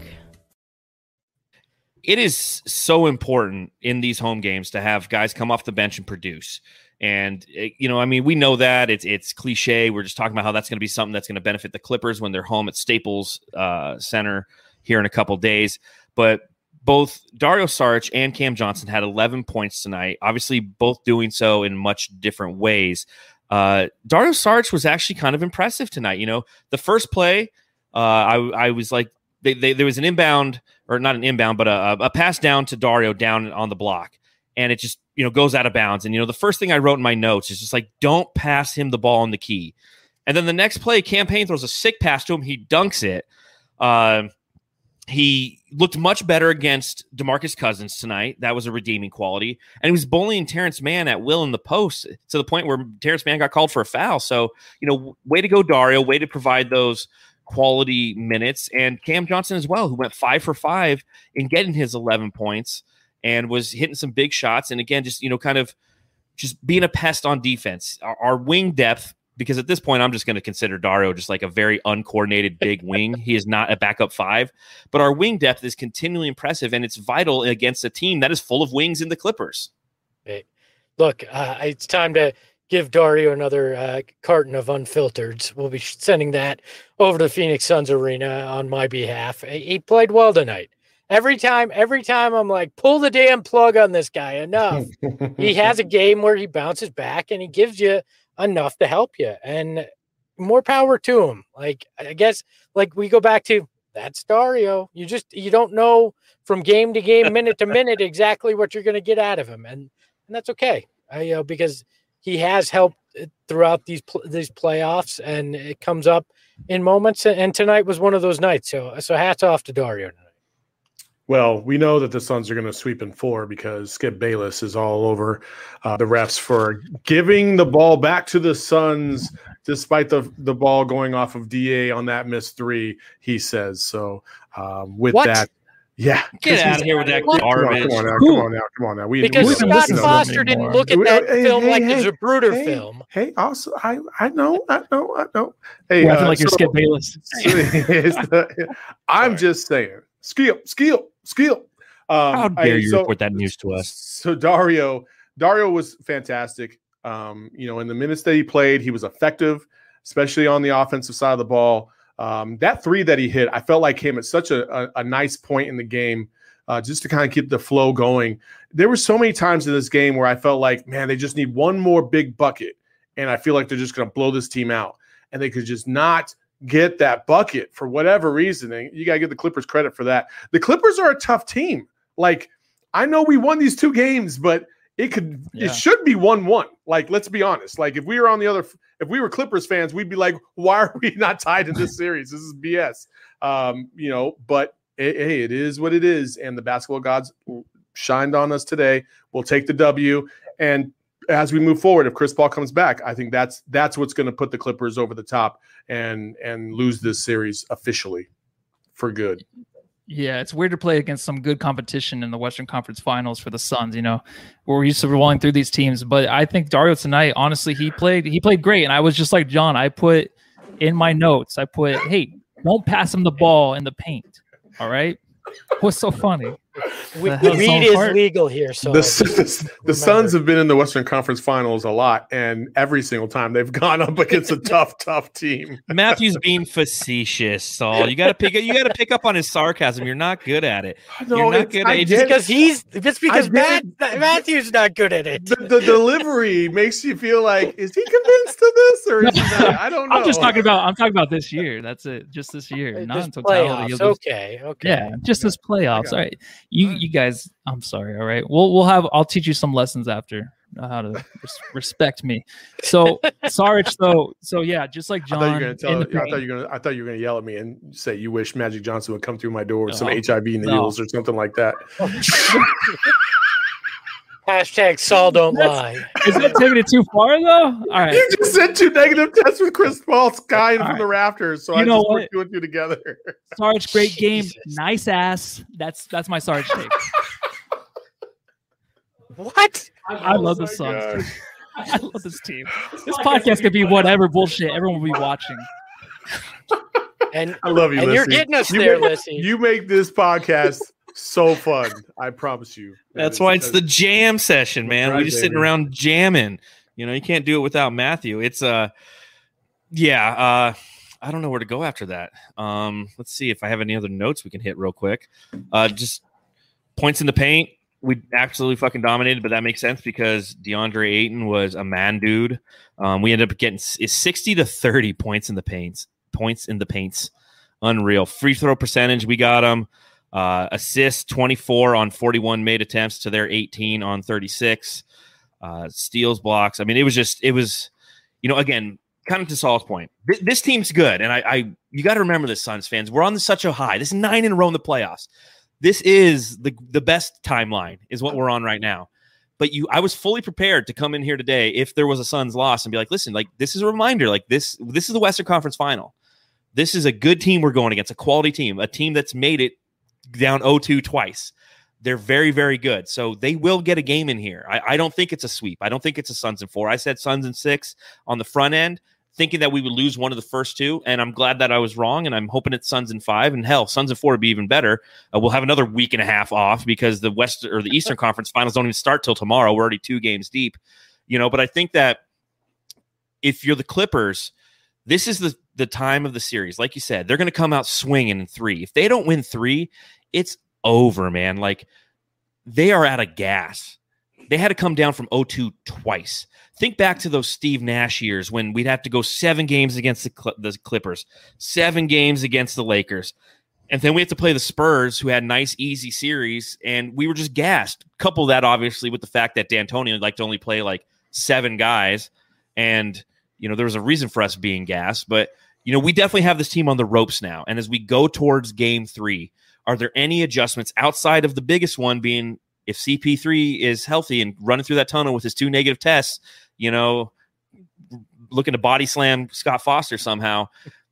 It is so important in these home games to have guys come off the bench and produce. And, you know, I mean, we know that it's it's cliche. We're just talking about how that's going to be something that's going to benefit the Clippers when they're home at Staples uh, Center here in a couple days. But both Dario Saric and Cam Johnson had eleven points tonight, obviously both doing so in much different ways. Uh, Dario Saric was actually kind of impressive tonight. You know, the first play, uh, I, I was like, They, they, there was an inbound, or not an inbound, but a, a pass down to Dario down on the block, and it just, you know, goes out of bounds. And, you know, the first thing I wrote in my notes is just like, don't pass him the ball on the key. And then the next play, Cam Payne throws a sick pass to him. He dunks it. Uh, he looked much better against DeMarcus Cousins tonight. That was a redeeming quality. And he was bullying Terrence Mann at will in the post to the point where Terrence Mann got called for a foul. So, you know, way to go, Dario. Way to provide those quality minutes. And Cam Johnson as well, who went five for five in getting his eleven points and was hitting some big shots. And again, just, you know, kind of just being a pest on defense. Our, our wing depth, because at this point, I'm just going to consider Dario just like a very uncoordinated big wing. He is not a backup five, but our wing depth is continually impressive, and it's vital against a team that is full of wings in the Clippers. Hey, look, uh, it's time to give Dario another uh, carton of unfiltered. We'll be sending that over to the Phoenix Suns arena on my behalf. He played well tonight. Every time, every time I'm like, pull the damn plug on this guy. Enough. He has a game where he bounces back and he gives you enough to help you, and more power to him. Like, I guess, like we go back to that's Dario. You just, you don't know from game to game, minute to minute, exactly what you're going to get out of him. And, and that's okay. I, you know, because he has helped throughout these, these playoffs, and it comes up in moments. And tonight was one of those nights. So, so hats off to Dario tonight. Well, we know that the Suns are going to sweep in four because Skip Bayless is all over uh, the refs for giving the ball back to the Suns despite the, the ball going off of D A on that missed three, he says. So um, with what? that, yeah. Get out of here with that garbage. Come on, come on now. Come on now. Come on now. We, because we, Scott we, Foster didn't look at that hey, film hey, like hey, it's a Bruder hey, film. Hey, also, I, I know, I know, I know. Hey, well, I feel uh, like you're so, Skip Bayless. I'm just saying. Skip, Skip, Skip. Um, How dare I, you so, report that news to us? So Dario, Dario was fantastic. Um, you know, in the minutes that he played, he was effective, especially on the offensive side of the ball. Um, that three that he hit, I felt like came at such a, a, a nice point in the game, uh, just to kind of keep the flow going. There were so many times in this game where I felt like, man, they just need one more big bucket, and I feel like they're just going to blow this team out, and they could just not get that bucket for whatever reason. And you got to give the Clippers credit for that. The Clippers are a tough team. Like, I know we won these two games, but it could, yeah. it should be one one. Like, let's be honest. Like, if we were on the other, if we were Clippers fans, we'd be like, why are we not tied in this series? This is B S. Um, you know, but it, hey, it is what it is. And the basketball gods shined on us today. We'll take the W. And as we move forward, if Chris Paul comes back, I think that's that's what's going to put the Clippers over the top and and lose this series officially for good. Yeah, it's weird to play against some good competition in the Western Conference Finals for the Suns. You know, we're used to rolling through these teams, but I think Dario tonight, honestly, he played he played great, and I was just like John. I put in my notes, I put, "Hey, don't pass him the ball in the paint." All right, what's so funny? We, weed is legal here, so the, the, the Suns have been in the Western Conference Finals a lot, and every single time they've gone up against a tough, tough team. Matthew's being facetious, Saul. You got to pick. You got to pick up on his sarcasm. You're not good at it. No, You're not good at it. Just because he's just because Matt, Matthew's not good at it. The, the delivery makes you feel like, is he convinced of this, or is he not? I don't know. I'm just talking about. I'm talking about this year. That's it. Just this year, not in totality. Playoffs. Okay. Okay. Yeah, just this playoffs. All right. You. You guys, I'm sorry. All right, we'll we'll have. I'll teach you some lessons after uh, how to res- respect me. So, Sarge, though. So yeah, just like John. I thought you were gonna tell. I thought you were gonna. I thought you were gonna yell at me and say you wish Magic Johnson would come through my door with oh, some H I V needles no. or something like that. Hashtag Saul don't lie. Is that taking it too far though? All right. You just said two negative tests with Chris Paul skying from right. the rafters, so you I know just what? put two and two together. Sarge, great game, nice ass. That's that's my Sarge take. What? I, I love the Suns. I love this team. This podcast could be whatever bullshit. Everyone will be watching. And I love you, and Lissy. You're getting us you there, make, Lissy. You make this podcast so fun. I promise you. That's why it's the jam session, man. Right, we just baby. sitting around jamming. You know, you can't do it without Matthew. It's uh yeah, uh I don't know where to go after that. Um, let's see if I have any other notes we can hit real quick. Uh just points in the paint. We absolutely fucking dominated, but that makes sense because DeAndre Ayton was a man dude. Um, we ended up getting is sixty to thirty points in the paints. Points in the paints. Unreal. Free throw percentage, we got them. Uh, assists, twenty-four on forty-one made attempts to their eighteen on thirty-six. Uh, steals, blocks. I mean, it was just, it was, you know, again, kind of to Saul's point, th- this team's good. And I, I you got to remember this, Suns fans. We're on such a high. This is nine in a row in the playoffs. This is the, the best timeline is what we're on right now. But you, I was fully prepared to come in here today if there was a Suns loss and be like, listen, like this is a reminder, like this, this is the Western Conference Final. This is a good team we're going against, a quality team, a team that's made it down oh two twice. They're very, very good. So they will get a game in here. I, I don't think it's a sweep. I don't think it's a Suns in four. I said Suns in six on the front end, thinking that we would lose one of the first two. And I'm glad that I was wrong. And I'm hoping it's Suns in five. And hell, Suns in four would be even better. Uh, we'll have another week and a half off because the West or the Eastern Conference Finals don't even start till tomorrow. We're already two games deep, you know. But I think that if you're the Clippers, this is the the time of the series. Like you said, they're going to come out swinging in three. If they don't win three, it's over, man. Like they are out of gas. They had to come down from oh two twice. Think back to those Steve Nash years when we'd have to go seven games against the, Cl- the Clippers, seven games against the Lakers. And then we have to play the Spurs, who had nice, easy series, and we were just gassed. Couple that, obviously, with the fact that D'Antoni liked to only play like seven guys. And, you know, there was a reason for us being gassed. But, you know, we definitely have this team on the ropes now. And as we go towards game three, are there any adjustments outside of the biggest one being if C P three is healthy and running through that tunnel with his two negative tests, you know, looking to body slam Scott Foster somehow?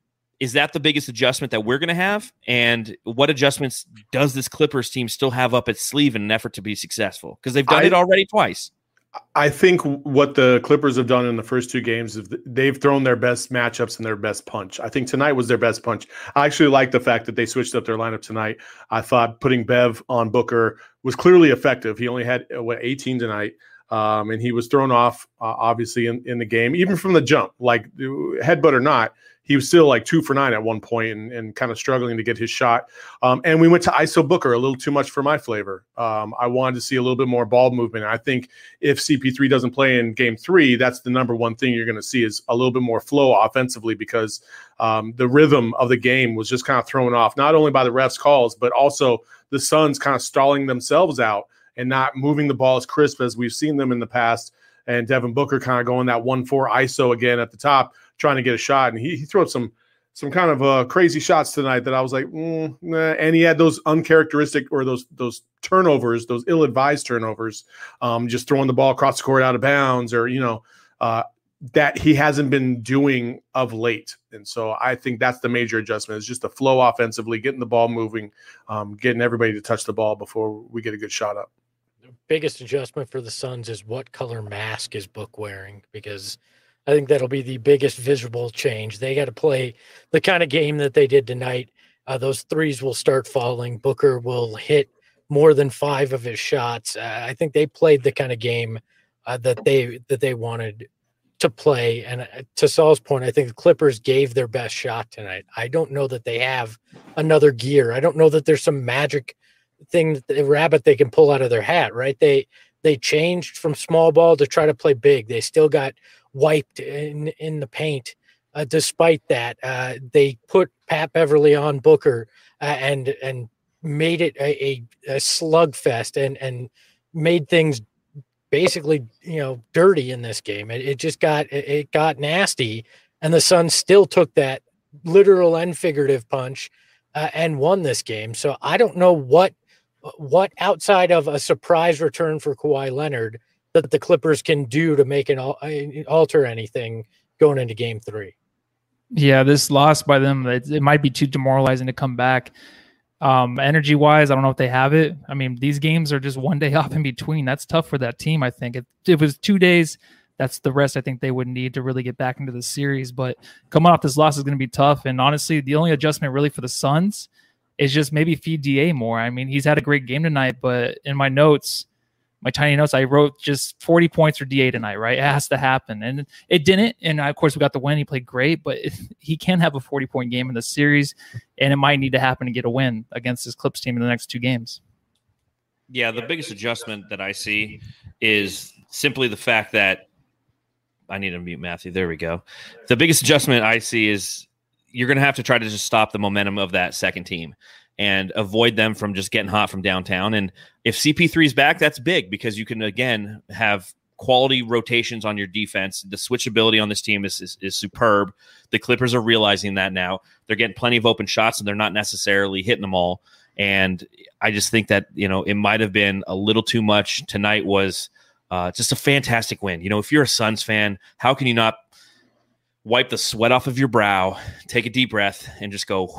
Is that the biggest adjustment that we're going to have? And what adjustments does this Clippers team still have up its sleeve in an effort to be successful? Because they've done I, it already twice. I think what the Clippers have done in the first two games is they've thrown their best matchups and their best punch. I think tonight was their best punch. I actually like the fact that they switched up their lineup tonight. I thought putting Bev on Booker was clearly effective. He only had what eighteen tonight. Um, and he was thrown off, uh, obviously, in, in the game, even from the jump. Like, headbutt or not, he was still like two for nine at one point and, and kind of struggling to get his shot. Um, and we went to I S O Booker, a little too much for my flavor. Um, I wanted to see a little bit more ball movement. I think if C P three doesn't play in game three, that's the number one thing you're going to see is a little bit more flow offensively because um, the rhythm of the game was just kind of thrown off, not only by the refs' calls, but also the Suns kind of stalling themselves out and not moving the ball as crisp as we've seen them in the past. And Devin Booker kind of going that one four I S O again at the top, trying to get a shot. And he, he threw up some some kind of uh, crazy shots tonight that I was like, mm, nah. And he had those uncharacteristic or those those turnovers, those ill-advised turnovers, um, just throwing the ball across the court out of bounds or, you know, uh, that he hasn't been doing of late. And so I think that's the major adjustment is just the flow offensively, getting the ball moving, um, getting everybody to touch the ball before we get a good shot up. Biggest adjustment for the Suns is what color mask is Book wearing, because I think that'll be the biggest visible change. They got to play the kind of game that they did tonight. Uh, those threes will start falling. Booker will hit more than five of his shots. Uh, I think they played the kind of game uh, that they that they wanted to play. And uh, to Saul's point, I think the Clippers gave their best shot tonight. I don't know that they have another gear. I don't know that there's some magic thing, the rabbit they can pull out of their hat, right? They they changed from small ball to try to play big. They still got wiped in in the paint. Uh, despite that, uh, they put Pat Beverly on Booker uh, and and made it a, a, a slugfest and and made things basically, you know, dirty in this game. It, it just got it, it got nasty, and the Suns still took that literal and figurative punch uh, and won this game. So I don't know what. What outside of a surprise return for Kawhi Leonard that the Clippers can do to make an alter anything going into game three. Yeah, this loss by them, it, it might be too demoralizing to come back. Um, energy wise, I don't know if they have it. I mean, these games are just one day off in between. That's tough for that team. I think if it was two days, that's the rest I think they would need to really get back into the series. But coming off this loss is going to be tough. And honestly, the only adjustment really for the Suns is just maybe feed D A more. I mean, he's had a great game tonight, but in my notes, my tiny notes, I wrote just forty points for D A tonight, right? It has to happen. And it didn't. And of course, we got the win. He played great, but if he can have a forty-point game in the series, and it might need to happen to get a win against this Clips team in the next two games. Yeah, the biggest adjustment that I see is simply the fact that I need to mute Matthew. There we go. The biggest adjustment I see is you're going to have to try to just stop the momentum of that second team and avoid them from just getting hot from downtown. And if C P three is back, that's big because you can, again, have quality rotations on your defense. The switchability on this team is, is is superb. The Clippers are realizing that now. They're getting plenty of open shots, and they're not necessarily hitting them all. And I just think that, you know, it might have been a little too much. Tonight was uh, just a fantastic win. You know, if you're a Suns fan, how can you not wipe the sweat off of your brow, take a deep breath, and just go,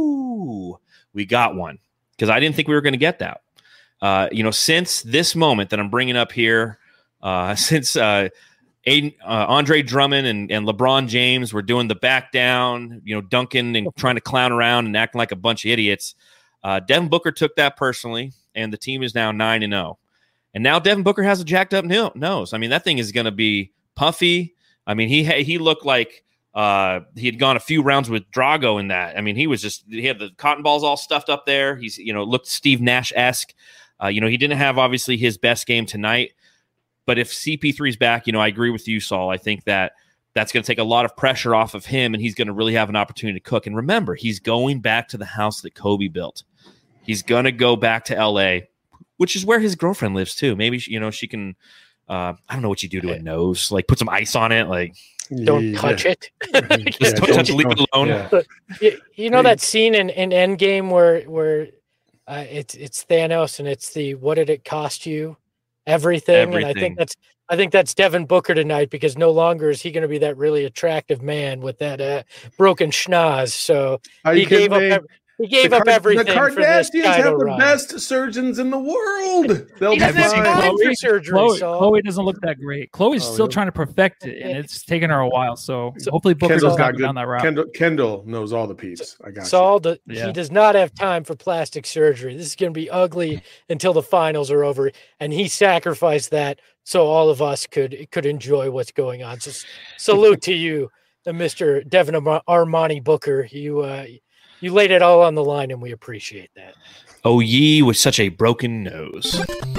whoo, we got one? Because I didn't think we were going to get that. Uh, you know, since this moment that I'm bringing up here, uh, since uh, Aiden, uh, Andre Drummond and, and LeBron James were doing the back down, you know, dunking and trying to clown around and acting like a bunch of idiots, uh, Devin Booker took that personally, and the team is now nine and oh. And now Devin Booker has a jacked up nose. I mean, that thing is going to be puffy. I mean, he he looked like uh, he had gone a few rounds with Drago in that. I mean, he was just he had the cotton balls all stuffed up there. He's you know looked Steve Nash-esque. Uh, you know, he didn't have obviously his best game tonight. But if C P three's back, you know, I agree with you, Saul. I think that that's going to take a lot of pressure off of him, and he's going to really have an opportunity to cook. And remember, he's going back to the house that Kobe built. He's going to go back to L A, which is where his girlfriend lives too. Maybe, you know, she can, uh, I don't know what you do to a nose, like put some ice on it. Like, don't Yeah. touch it. just Yeah, don't don't- touch it, leave it alone. Yeah. you, you know that scene in, in Endgame where where uh, it's it's Thanos and it's the what did it cost you? Everything. And I Everything. think that's I think that's Devin Booker tonight, because no longer is he going to be that really attractive man with that uh, broken schnoz. So Are he you kidding gave up me? ev- he gave the up Kar- everything The for this Kardashians title have the run. best surgeons in the world. They'll He be doesn't have fine. time for Chloe- surgery, Chloe, Saul. Chloe doesn't look that great. Chloe's Oh, still yeah. trying to perfect it, and Yeah. it's taken her a while. So, So- hopefully Booker Kendall's doesn't got go good. down that route. Kendall, Kendall knows all the peeps. I got you. Saul, the, Yeah. he does not have time for plastic surgery. This is going to be ugly until the finals are over, and he sacrificed that so all of us could could enjoy what's going on. So, s- salute to you, uh, Mister Devin Ar- Armani Booker. You uh, you laid it all on the line, and we appreciate that. Oh, ye with such a broken nose.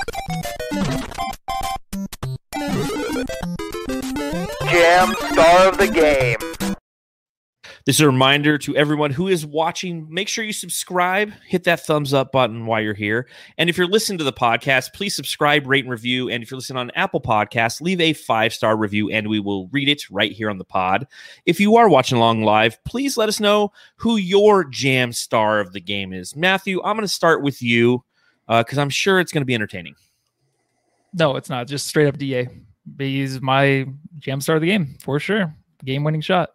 Jam star of the game. This is a reminder to everyone who is watching. Make sure you subscribe, hit that thumbs up button while you're here. And if you're listening to the podcast, please subscribe, rate, and review. And if you're listening on Apple Podcasts, leave a five-star review, and we will read it right here on the pod. If you are watching along live, please let us know who your jam star of the game is. Matthew, I'm going to start with you because I'm sure it's going to be entertaining. No, it's not. Just straight up D A. He's my jam star of the game for sure. Game winning shot.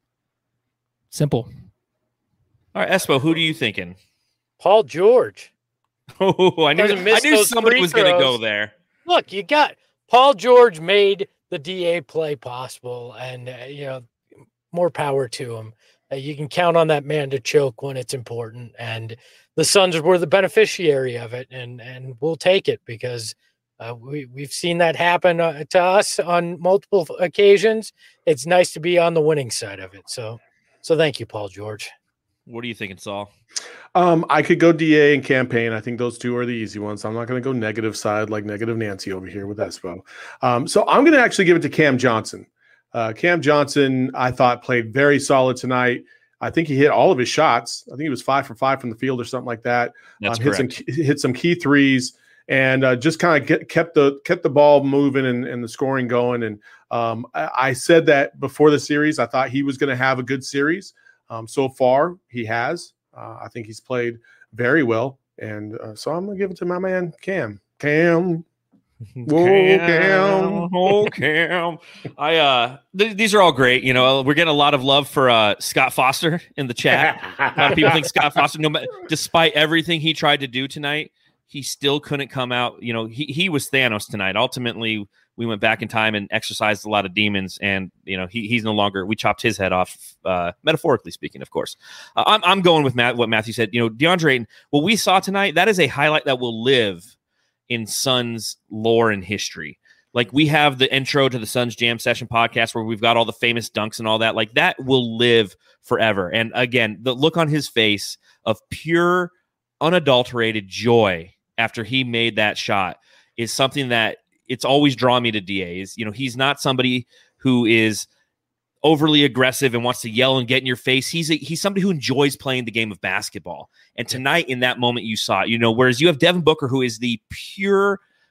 Simple. All right, Espo, who are you thinking? Paul George. Oh, I knew, Doesn't I miss knew those somebody free was going to go throws. there. Look, you got Paul George made the D A play possible, and uh, you know, more power to him. Uh, you can count on that man to choke when it's important, and the Suns were the beneficiary of it, and and we'll take it because uh, we we've seen that happen uh, to us on multiple occasions. It's nice to be on the winning side of it. So, so thank you, Paul George. What are you thinking, Saul? Um, I could go D A and campaign. I think those two are the easy ones. I'm not going to go negative side like negative Nancy over here with Espo. Um, so I'm going to actually give it to Cam Johnson. Uh, Cam Johnson, I thought, played very solid tonight. I think he hit all of his shots. I think he was five for five from the field or something like that. That's um, hit correct. some hit some key threes and uh, just kind of get, kept the kept the ball moving and, and the scoring going. And um, I, I said that before the series, I thought he was going to have a good series. Um, so far, he has. Uh, I think he's played very well, and uh, so I'm gonna give it to my man Cam. Cam, whoa, Cam. Oh, Cam. I uh, th- these are all great. You know, we're getting a lot of love for uh, Scott Foster in the chat. A lot of people think Scott Foster, no matter, despite everything he tried to do tonight, he still couldn't come out. You know, he he was Thanos tonight. Ultimately, we went back in time and exercised a lot of demons, and you know, he he's no longer. We chopped his head off, uh, metaphorically speaking, of course. Uh, I'm I'm going with Matt. What Matthew said. You know, DeAndre Ayton. What we saw tonight, that is a highlight that will live in Suns lore and history. Like, we have the intro to the Suns Jam Session podcast where we've got all the famous dunks and all that. Like, that will live forever. And again, the look on his face of pure, unadulterated joy after he made that shot is something that it's always drawn me to D A. Is, you know, he's not somebody who is overly aggressive and wants to yell and get in your face. He's a, he's somebody who enjoys playing the game of basketball. And tonight, in that moment, you saw it. You know, whereas you have Devin Booker, who is the pure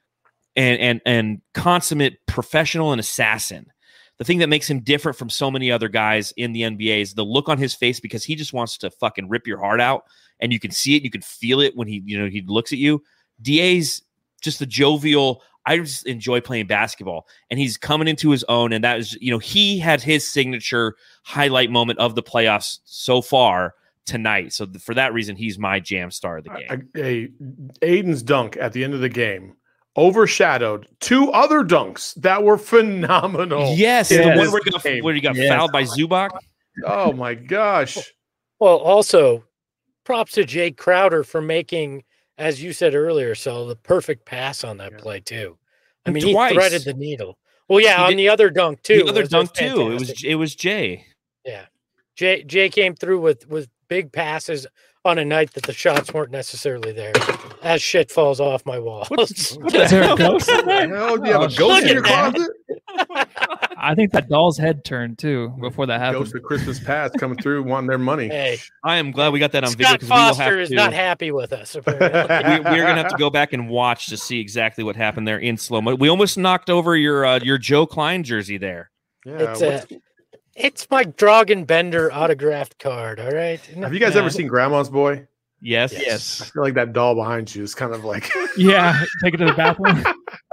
and and and consummate professional and assassin. The thing that makes him different from so many other guys in the N B A is the look on his face, because he just wants to fucking rip your heart out, and you can see it, you can feel it when he, you know, he looks at you. D A's just the jovial. I just enjoy playing basketball, and he's coming into his own. And that is, you know, he had his signature highlight moment of the playoffs so far tonight. So th- for that reason, he's my jam star of the game. A, Aiden's dunk at the end of the game overshadowed two other dunks that were phenomenal. Yes, in the one this where he got, game. where he got Yes. fouled by Zubac. Oh my gosh. Well, also, props to Jake Crowder for making, as you said earlier, so the perfect pass on that Yeah. play too. I And mean, twice. he threaded the needle. Well, yeah, He on did- the other dunk too. The other was dunk too. It was fantastic. it was Jay. Yeah, Jay Jay came through with with big passes on a night that the shots weren't necessarily there. As shit falls off my wall. What Is there a ghost? Hell, do you have a Oh, ghost in shit, your man. closet? I think that doll's head turned too before that happened. Ghost of Christmas past coming through wanting their money. Hey, I am glad we got that on video, Scott because we will Foster have is to. not happy with us. Apparently. we, we're gonna have to go back and watch to see exactly what happened there in slow mo. We almost knocked over your uh, your Joe Klein jersey there. Yeah, It's a, it's my Dragon Bender autographed card. All right. have you guys Yeah. ever seen Grandma's Boy? Yes. I Yes. feel like that doll behind you is kind of like Yeah. Take it to the bathroom.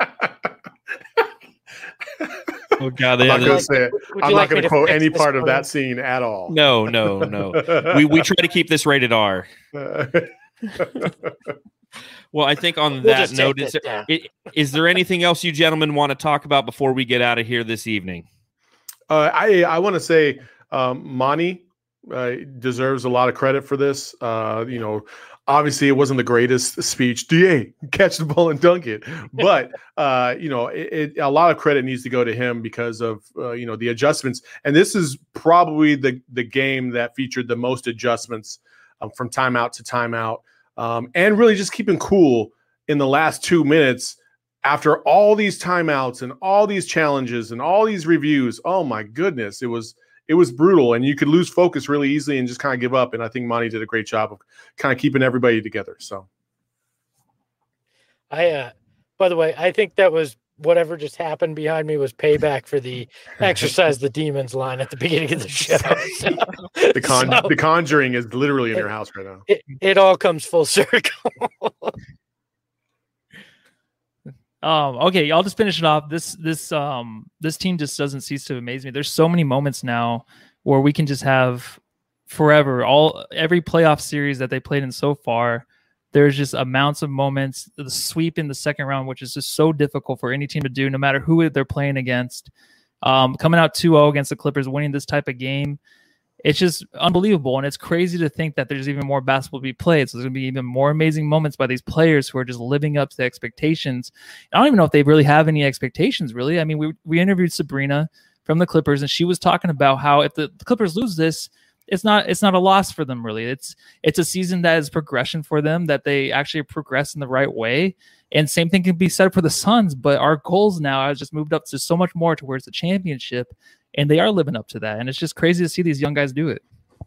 Oh God. I'm Yeah, not gonna the- say it. Would you I'm like not me gonna to quote fix any this part of for you? that scene at all. no, no, no. We we try to keep this rated R. Well, I think on We'll that just take note, this is there, down. i- is there anything else you gentlemen want to talk about before we get out of here this evening? Uh, I I want to say um, Monty uh, deserves a lot of credit for this. Uh, you know, obviously it wasn't the greatest speech. D A, catch the ball and dunk it. But uh, you know, it, it, a lot of credit needs to go to him because of uh, you know the adjustments. And this is probably the the game that featured the most adjustments um, from timeout to timeout, um, and really just keeping cool in the last two minutes. After all these timeouts and all these challenges and all these reviews, oh my goodness, it was it was brutal, and you could lose focus really easily and just kind of give up. And I think Monty did a great job of kind of keeping everybody together. So, I, uh, by the way, I think that was whatever just happened behind me was payback for the exercise the demons line at the beginning of the show. So, the con so the Conjuring is literally in your house right now. it, it all comes full circle. Um, okay, I'll just finish it off. This this um this team just doesn't cease to amaze me. There's so many moments now where we can just have forever all every playoff series that they played in so far. There's just amounts of moments. The sweep in the second round, which is just so difficult for any team to do, no matter who they're playing against. Um, coming out two oh against the Clippers, winning this type of game. It's just unbelievable. And it's crazy to think that there's even more basketball to be played. So there's going to be even more amazing moments by these players who are just living up to the expectations. I don't even know if they really have any expectations, really. I mean, we, we interviewed Sabrina from the Clippers, and she was talking about how if the, the Clippers lose this, it's not it's not a loss for them, really. It's it's a season that is progression for them, that they actually progress in the right way. And same thing can be said for the Suns, but our goals now have just moved up to so much more towards the championship. And they are living up to that. And it's just crazy to see these young guys do it.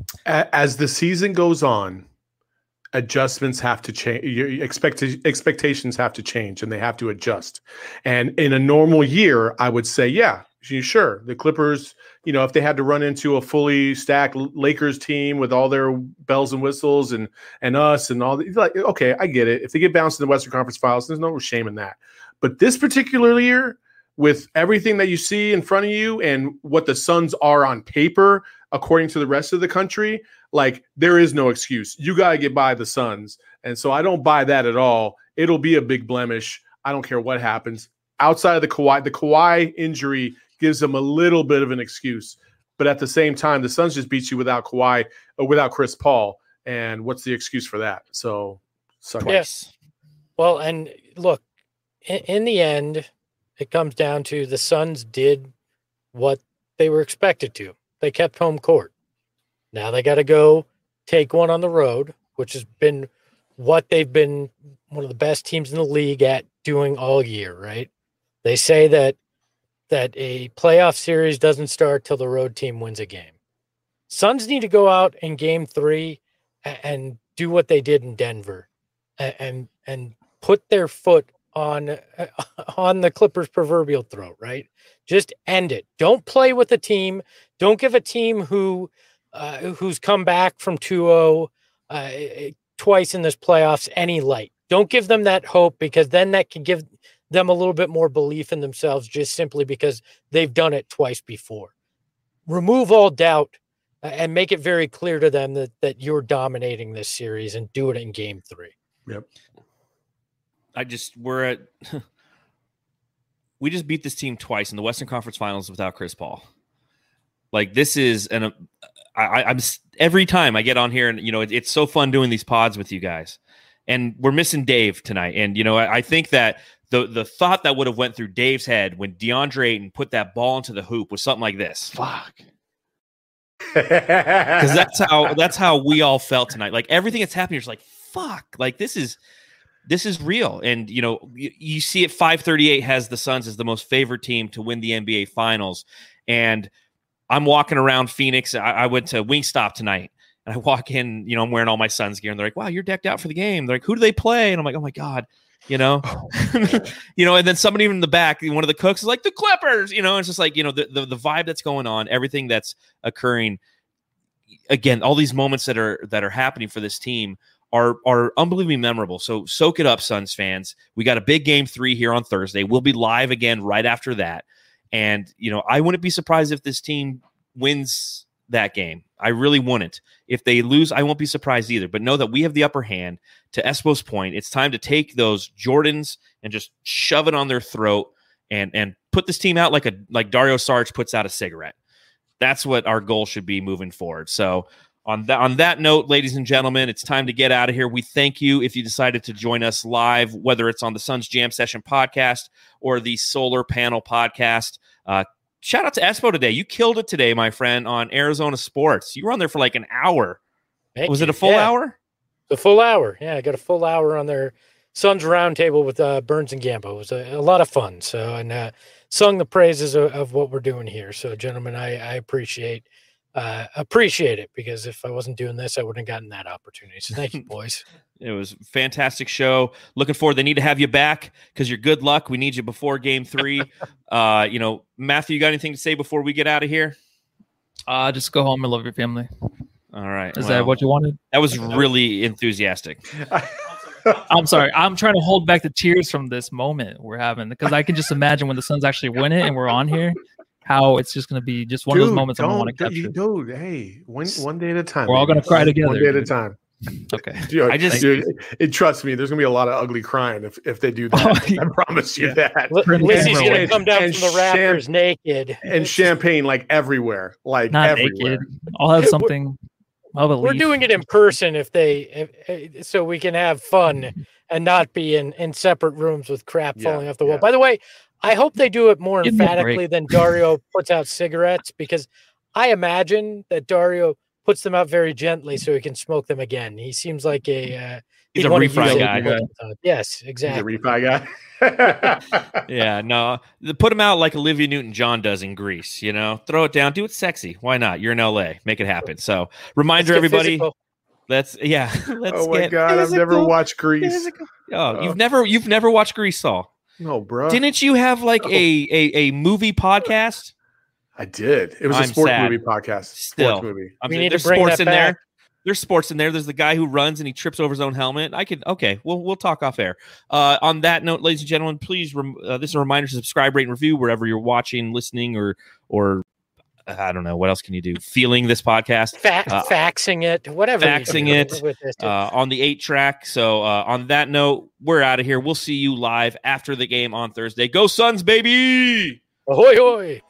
As the season goes on, adjustments have to change. Your expect- expectations have to change, and they have to adjust. And in a normal year, I would say, yeah, sure. The Clippers, you know, if they had to run into a fully stacked Lakers team with all their bells and whistles and and us and all, the, like, okay, I get it. If they get bounced in the Western Conference Finals, there's no shame in that. But this particular year, with everything that you see in front of you and what the Suns are on paper, according to the rest of the country, like there is no excuse. You got to get by the Suns. And so I don't buy that at all. It'll be a big blemish. I don't care what happens. Outside of the Kawhi, the Kawhi injury gives them a little bit of an excuse. But at the same time, the Suns just beat you without Kawhi or without Chris Paul. And what's the excuse for that? So, suck it. Yes. Well, and look, in, in the end, it comes down to the Suns did what they were expected to. They kept home court. Now they got to go take one on the road, which has been what they've been one of the best teams in the league at doing all year, right? They say that that a playoff series doesn't start till the road team wins a game. Suns need to go out in game three and, and do what they did in Denver and, and and put their foot on uh, on the Clippers' proverbial throat, right? Just end it. Don't play with a team. Don't give a team who uh, who's come back from two oh uh, twice in this playoffs any light. Don't give them that hope, because then that can give them a little bit more belief in themselves, just simply because they've done it twice before. Remove all doubt uh, and make it very clear to them that that you're dominating this series, and do it in game three. Yep. I just we're at we just beat this team twice in the Western Conference Finals without Chris Paul. Like, this is an uh, I, I'm every time I get on here, and you know it, it's so fun doing these pods with you guys, and we're missing Dave tonight. And you know I, I think that the the thought that would have went through Dave's head when DeAndre Ayton put that ball into the hoop was something like this. Fuck. Because that's how that's how we all felt tonight. Like, everything that's happening is like, fuck. Like, this is. This is real. And, you know, you, you see it, five thirty-eight has the Suns as the most favored team to win the N B A Finals. And I'm walking around Phoenix. I, I went to Wingstop tonight, and I walk in, you know, I'm wearing all my Suns gear, and they're like, wow, you're decked out for the game. They're like, who do they play? And I'm like, oh, my God, you know, you know, and then somebody in the back, one of the cooks is like, the Clippers, you know, it's just like, you know, the, the, the vibe that's going on, everything that's occurring. Again, all these moments that are that are happening for this team are are unbelievably memorable. So soak it up, Suns fans. We got a big game three here on Thursday. We'll be live again right after that. And, you know, I wouldn't be surprised if this team wins that game. I really wouldn't. If they lose, I won't be surprised either. But know that we have the upper hand. To Espo's point, it's time to take those Jordans and just shove it on their throat and and put this team out like a like Dario Saric puts out a cigarette. That's what our goal should be moving forward. So On that, on that note, ladies and gentlemen, it's time to get out of here. We thank you if you decided to join us live, whether it's on the Suns Jam Session podcast or the Solar Panel podcast. Uh, shout out to Espo today. You killed it today, my friend, on Arizona Sports. You were on there for like an hour. Thank Was you. it a full yeah. hour? The full hour. Yeah, I got a full hour on their Suns Roundtable with uh, Burns and Gambo. It was a, a lot of fun. So, and uh, sung the praises of, of what we're doing here. So, gentlemen, I, I appreciate Uh, appreciate it, because if I wasn't doing this, I wouldn't have gotten that opportunity. So thank you, boys. It was a fantastic show. Looking forward. They need to have you back because you're good luck. We need you before game three. uh, you know, Matthew, you got anything to say before we get out of here? Uh, just go home and love your family. All right. Is well, that what you wanted? That was really enthusiastic. I'm sorry. I'm trying to hold back the tears from this moment we're having, because I can just imagine when the Suns actually win it and we're on here, how it's just going to be just one dude, of those moments I don't want to capture. Dude, hey, one one day at a time. We're all going to cry together. One day at a time. Okay. Dude, I just- dude, it, trust me, there's gonna be a lot of ugly crying if, if they do that. Oh, yeah. I promise you Yeah. that. L- Turn Lizzie's camera going away. to come down And from the rafters sham- naked. And champagne like everywhere, like Not everywhere. naked. I'll have something. I'll have a We're leaf. doing it in person if they, if, if, so we can have fun and not be in, in separate rooms with crap Yeah, falling off the wall. yeah. By the way, I hope they do it more Give me a emphatically break. than Dario puts out cigarettes, because I imagine that Dario puts them out very gently so he can smoke them again. He seems like a uh, He's he'd a wanna refry use it guy. most of the time. Yes, He's a exactly. refi guy. Yeah, no. the- Put him out like Olivia Newton-John does in Greece, you know? Throw it down. Do it sexy. Why not? You're in L A. Make it happen. So, reminder, Let's get everybody. physical. Let's, yeah. Let's Oh my get god, I've never physical. watched Grease. Physical. Oh, Oh. you've never you've never watched Grease, Saul. No, bro. Didn't you have like a, a a movie podcast? I did. It was a I'm sports sad. movie podcast. Still. Sports movie. I'm We saying need to there's bring sports that in there. back. There's sports in there. There's the guy who runs and he trips over his own helmet. I could okay. We'll we'll talk off air. Uh, on that note, ladies and gentlemen, please rem- uh, this is a reminder to subscribe, rate, and review wherever you're watching, listening, or or I don't know what else can you do. Feeling this podcast. Fa- Uh, faxing it, whatever. you faxing do it, with this. uh, on the eight track. So uh, on that note, we're out of here. We'll see you live after the game on Thursday. Go Suns, baby! Ahoy, hoy.